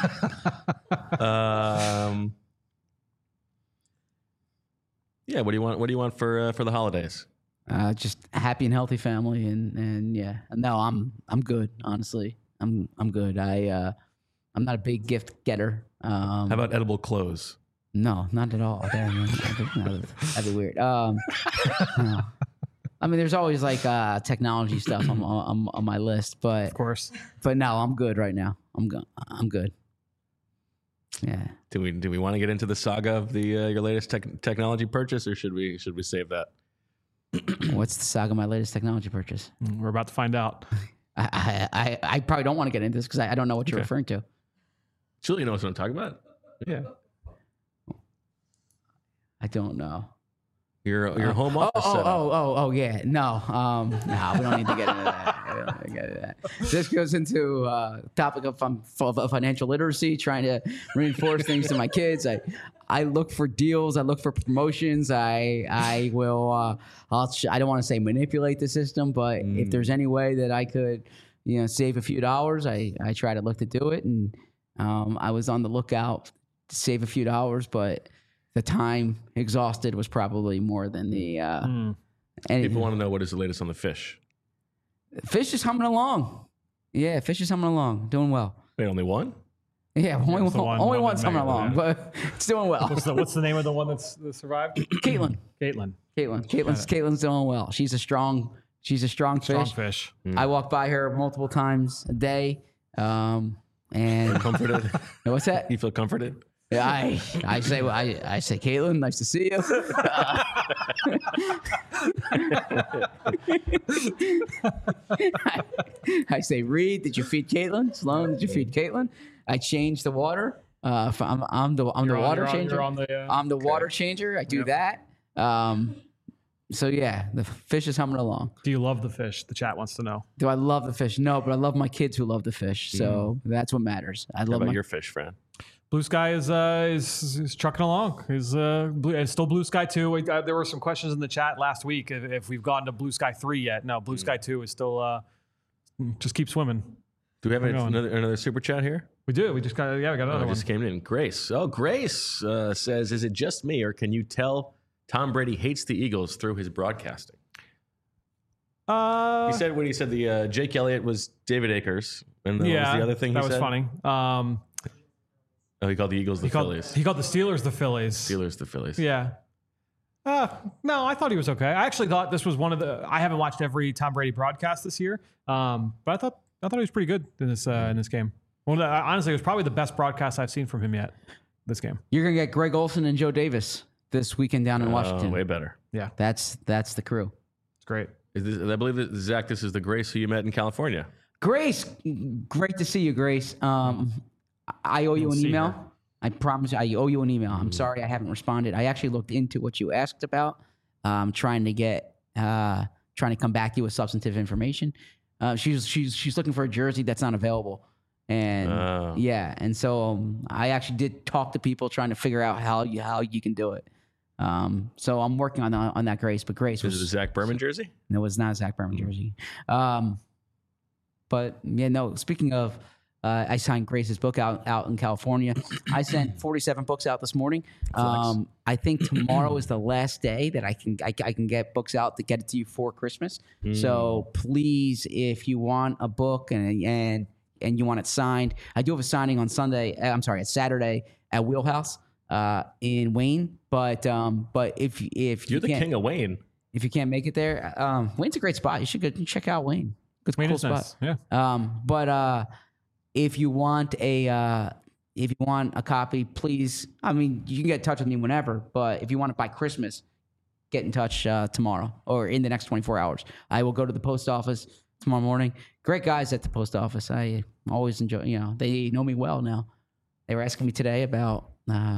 Yeah. What do you want? What do you want for the holidays? Just a happy and healthy family, and yeah. No, I'm good. Honestly, I'm good. I'm not a big gift getter. How about edible clothes? No, not at all. That'd be weird. No. I mean, there's always like technology stuff on my list, but of course. But no, I'm good right now. I'm good. Yeah. Do we want to get into the saga of the your latest technology purchase, or should we save that? What's the saga of my latest technology purchase? We're about to find out. I probably don't want to get into this because I don't know what you're referring to. Julie knows what I'm talking about. Yeah. I don't know. Your home office setup. Oh, yeah. No, we don't need to get into that. This goes into topic of financial literacy, trying to reinforce things to my kids. I look for deals. I look for promotions. I will. I don't want to say manipulate the system, but if there's any way that I could, save a few dollars, I try to look to do it. And I was on the lookout to save a few dollars, but the time exhausted was probably more than the. People want to know what is the latest on the fish. Fish is humming along. Yeah, fish is humming along, doing well. Wait, only one? Yeah, only one's humming along, but it's doing well. What's the name of the one that survived? Caitlin's doing well. She's a strong fish. Strong fish. I walk by her multiple times a day. And comforted. What's that? You feel comforted? Yeah, I say Caitlin, nice to see you. I say Reed, did you feed Caitlin? Sloan, did you feed Caitlin? I change the water. I'm the water changer. I'm the water changer. I do that. So yeah, the fish is humming along. Do you love the fish? The chat wants to know. Do I love the fish? No, but I love my kids who love the fish. So that's what matters. I love your fish, Fran. Blue Sky is trucking along. It's still Blue Sky 2. There were some questions in the chat last week if we've gotten to Blue Sky 3 yet. No, Blue Sky 2 is still just keep swimming. Do we have another super chat here? We do. We just got another one. Just came in. Grace. Oh, Grace says, is it just me or can you tell Tom Brady hates the Eagles through his broadcasting? He said when he said the Jake Elliott was David Akers. And what was the other thing he said? That was funny. He called the Eagles the Phillies. He called the Steelers the Phillies. Steelers the Phillies. Yeah. No, I thought he was okay. I actually thought this was one of the. I haven't watched every Tom Brady broadcast this year, but I thought he was pretty good in this game. Well, honestly, it was probably the best broadcast I've seen from him yet. This game. You're gonna get Greg Olsen and Joe Davis this weekend down in Washington. Way better. Yeah, that's the crew. It's great. I believe that Zach, this is the Grace who you met in California. Grace, great to see you, Grace. I owe you an email. Her. I promise you, I owe you an email. I'm sorry I haven't responded. I actually looked into what you asked about. Trying to come back to you with substantive information. She's looking for a jersey that's not available, and and so I actually did talk to people trying to figure out how you can do it. So I'm working on that, Grace. But Grace was it a Zach Berman jersey? No, it's not a Zach Berman jersey. But yeah, no. Speaking of. I signed Grace's book out in California. I sent 47 books out this morning. I think tomorrow is the last day that I can get books out to get it to you for Christmas. So please, if you want a book and you want it signed, I do have a signing on at Saturday at Wheelhouse in Wayne. But if you're the king of Wayne, if you can't make it there, Wayne's a great spot. You should go check out Wayne. It's a cool spot. Nice. Yeah. But if you want a if you want a copy, please. I mean, you can get in touch with me whenever, but if you want it by Christmas, get in touch tomorrow or in the next 24 hours. I will go to the post office tomorrow morning. Great guys at the post office. I always enjoy, they know me well now. They were asking me today about,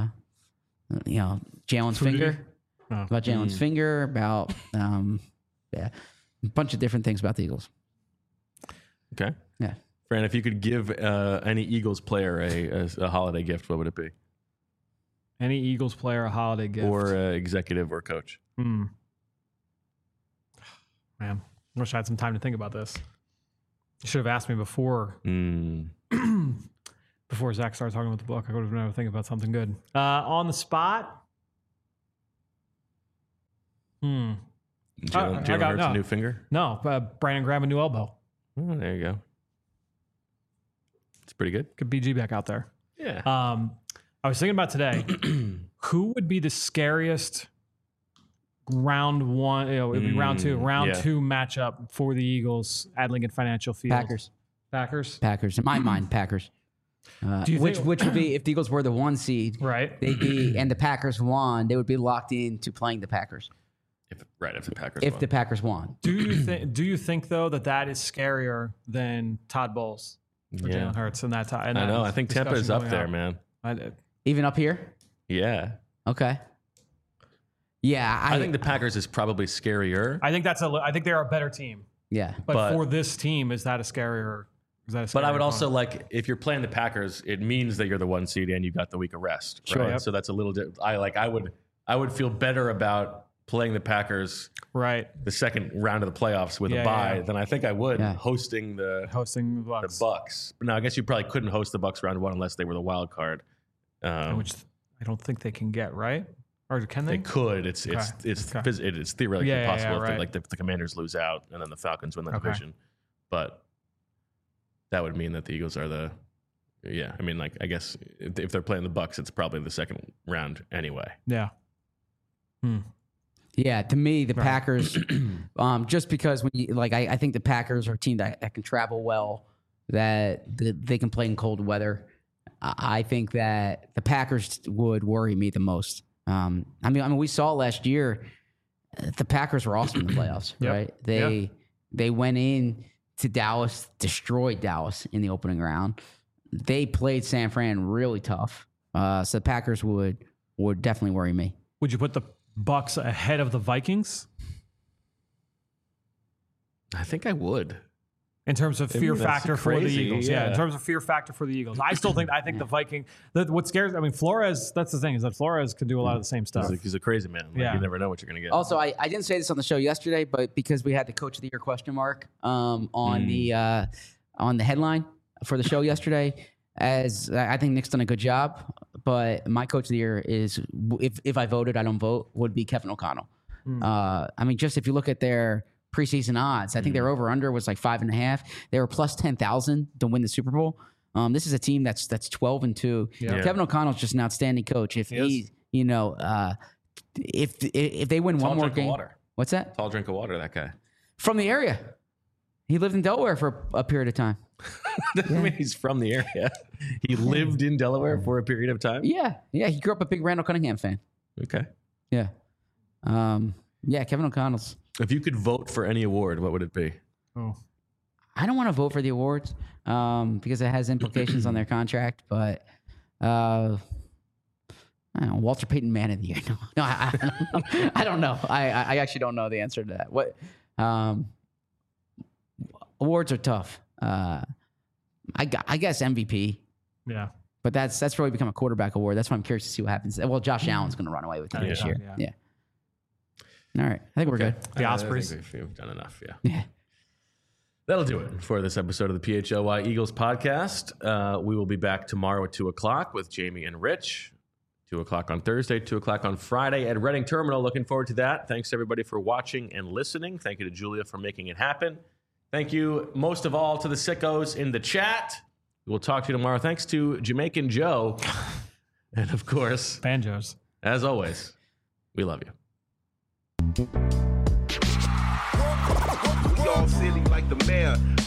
Jalen's finger, about Jalen's finger, about, a bunch of different things about the Eagles. Okay. Yeah. Fran, if you could give any Eagles player a holiday gift, what would it be? Any Eagles player a holiday gift? Or executive or coach? Man, I wish I had some time to think about this. You should have asked me before before Zach started talking about the book. I would have been able to think about something good. On the spot? Jalen Hurts a new finger? No, Brandon grab a new elbow. Oh, there you go. It's pretty good. Good BG back out there. Yeah. I was thinking about today, who would be the scariest round one, it would be round two matchup for the Eagles at Lincoln Financial Field? Packers. In my mind, Packers. Which would be, if the Eagles were the 1 seed, right? They'd be, and the Packers won, they would be locked into playing the Packers. If the Packers won. Do you think though that is scarier than Todd Bowles or Jalen Hurts in that time? I know. I think Tampa is up there, man. Even up here? Yeah. Okay. Yeah, I think the Packers is probably scarier. I think I think they're a better team. Yeah, but for this team, is that a scarier? But I would also if you're playing the Packers, it means that you're the 1 seed and you got the week of rest. Right? Sure. Yep. So that's a little. I would feel better about playing the Packers, right, the second round of the playoffs with a bye than I think I would hosting the Bucs. But now I guess you probably couldn't host the Bucs round 1 unless they were the wild card, which I don't think they can get, right? Or can they? They could. It's theoretically possible if the Commanders lose out and then the Falcons win the division, but that would mean that the Eagles are the. Yeah, I mean, I guess if they're playing the Bucs, it's probably the second round anyway. Yeah. Yeah, to me, the Packers, just because when you I think the Packers are a team that can travel well, that they can play in cold weather. I think that the Packers would worry me the most. I mean, we saw last year, the Packers were awesome in the playoffs, right? They went in to Dallas, destroyed Dallas in the opening round. They played San Fran really tough. So the Packers would definitely worry me. Would you put the Bucs ahead of the Vikings? I think I would. In terms of fear factor for the Eagles. Yeah, in terms of fear factor for the Eagles. I think the Viking, what scares, Flores, that's the thing, is that Flores can do a lot of the same stuff. He's a crazy man. You never know what you're going to get. Also, I didn't say this on the show yesterday, but because we had the Coach of the Year question mark on the headline for the show yesterday, as I think Nick's done a good job, but my Coach of the Year is, if I voted, I don't vote, would be Kevin O'Connell. Just if you look at their preseason odds, I think their over-under was 5.5. They were plus 10,000 to win the Super Bowl. This is a team that's 12-2. Yeah. Kevin O'Connell's just an outstanding coach. If if they win one more game, water. What's that? Tall drink of water. That guy from the area. He lived in Delaware for a period of time. Doesn't mean he's from the area. He lived in Delaware for a period of time. Yeah. He grew up a big Randall Cunningham fan. Okay. Yeah. Kevin O'Connell's. If you could vote for any award, what would it be? Oh, I don't want to vote for the awards because it has implications on their contract. But I don't know, Walter Payton Man of the Year. No, I don't know. I actually don't know the answer to that. What awards are tough. I guess MVP. Yeah. But that's really become a quarterback award. That's why I'm curious to see what happens. Well, Josh Allen's going to run away with it this year. Yeah. All right. I think we're good. The Ospreys. I think we've done enough. Yeah. That'll do it for this episode of the PHLY Eagles podcast. We will be back tomorrow at 2:00 with Jamie and Rich. 2:00 on Thursday, 2:00 on Friday at Reading Terminal. Looking forward to that. Thanks, everybody, for watching and listening. Thank you to Julia for making it happen. Thank you, most of all, to the sickos in the chat. We'll talk to you tomorrow. Thanks to Jamaican Joe. And, of course, Banjos. As always, we love you. We all silly like the mayor.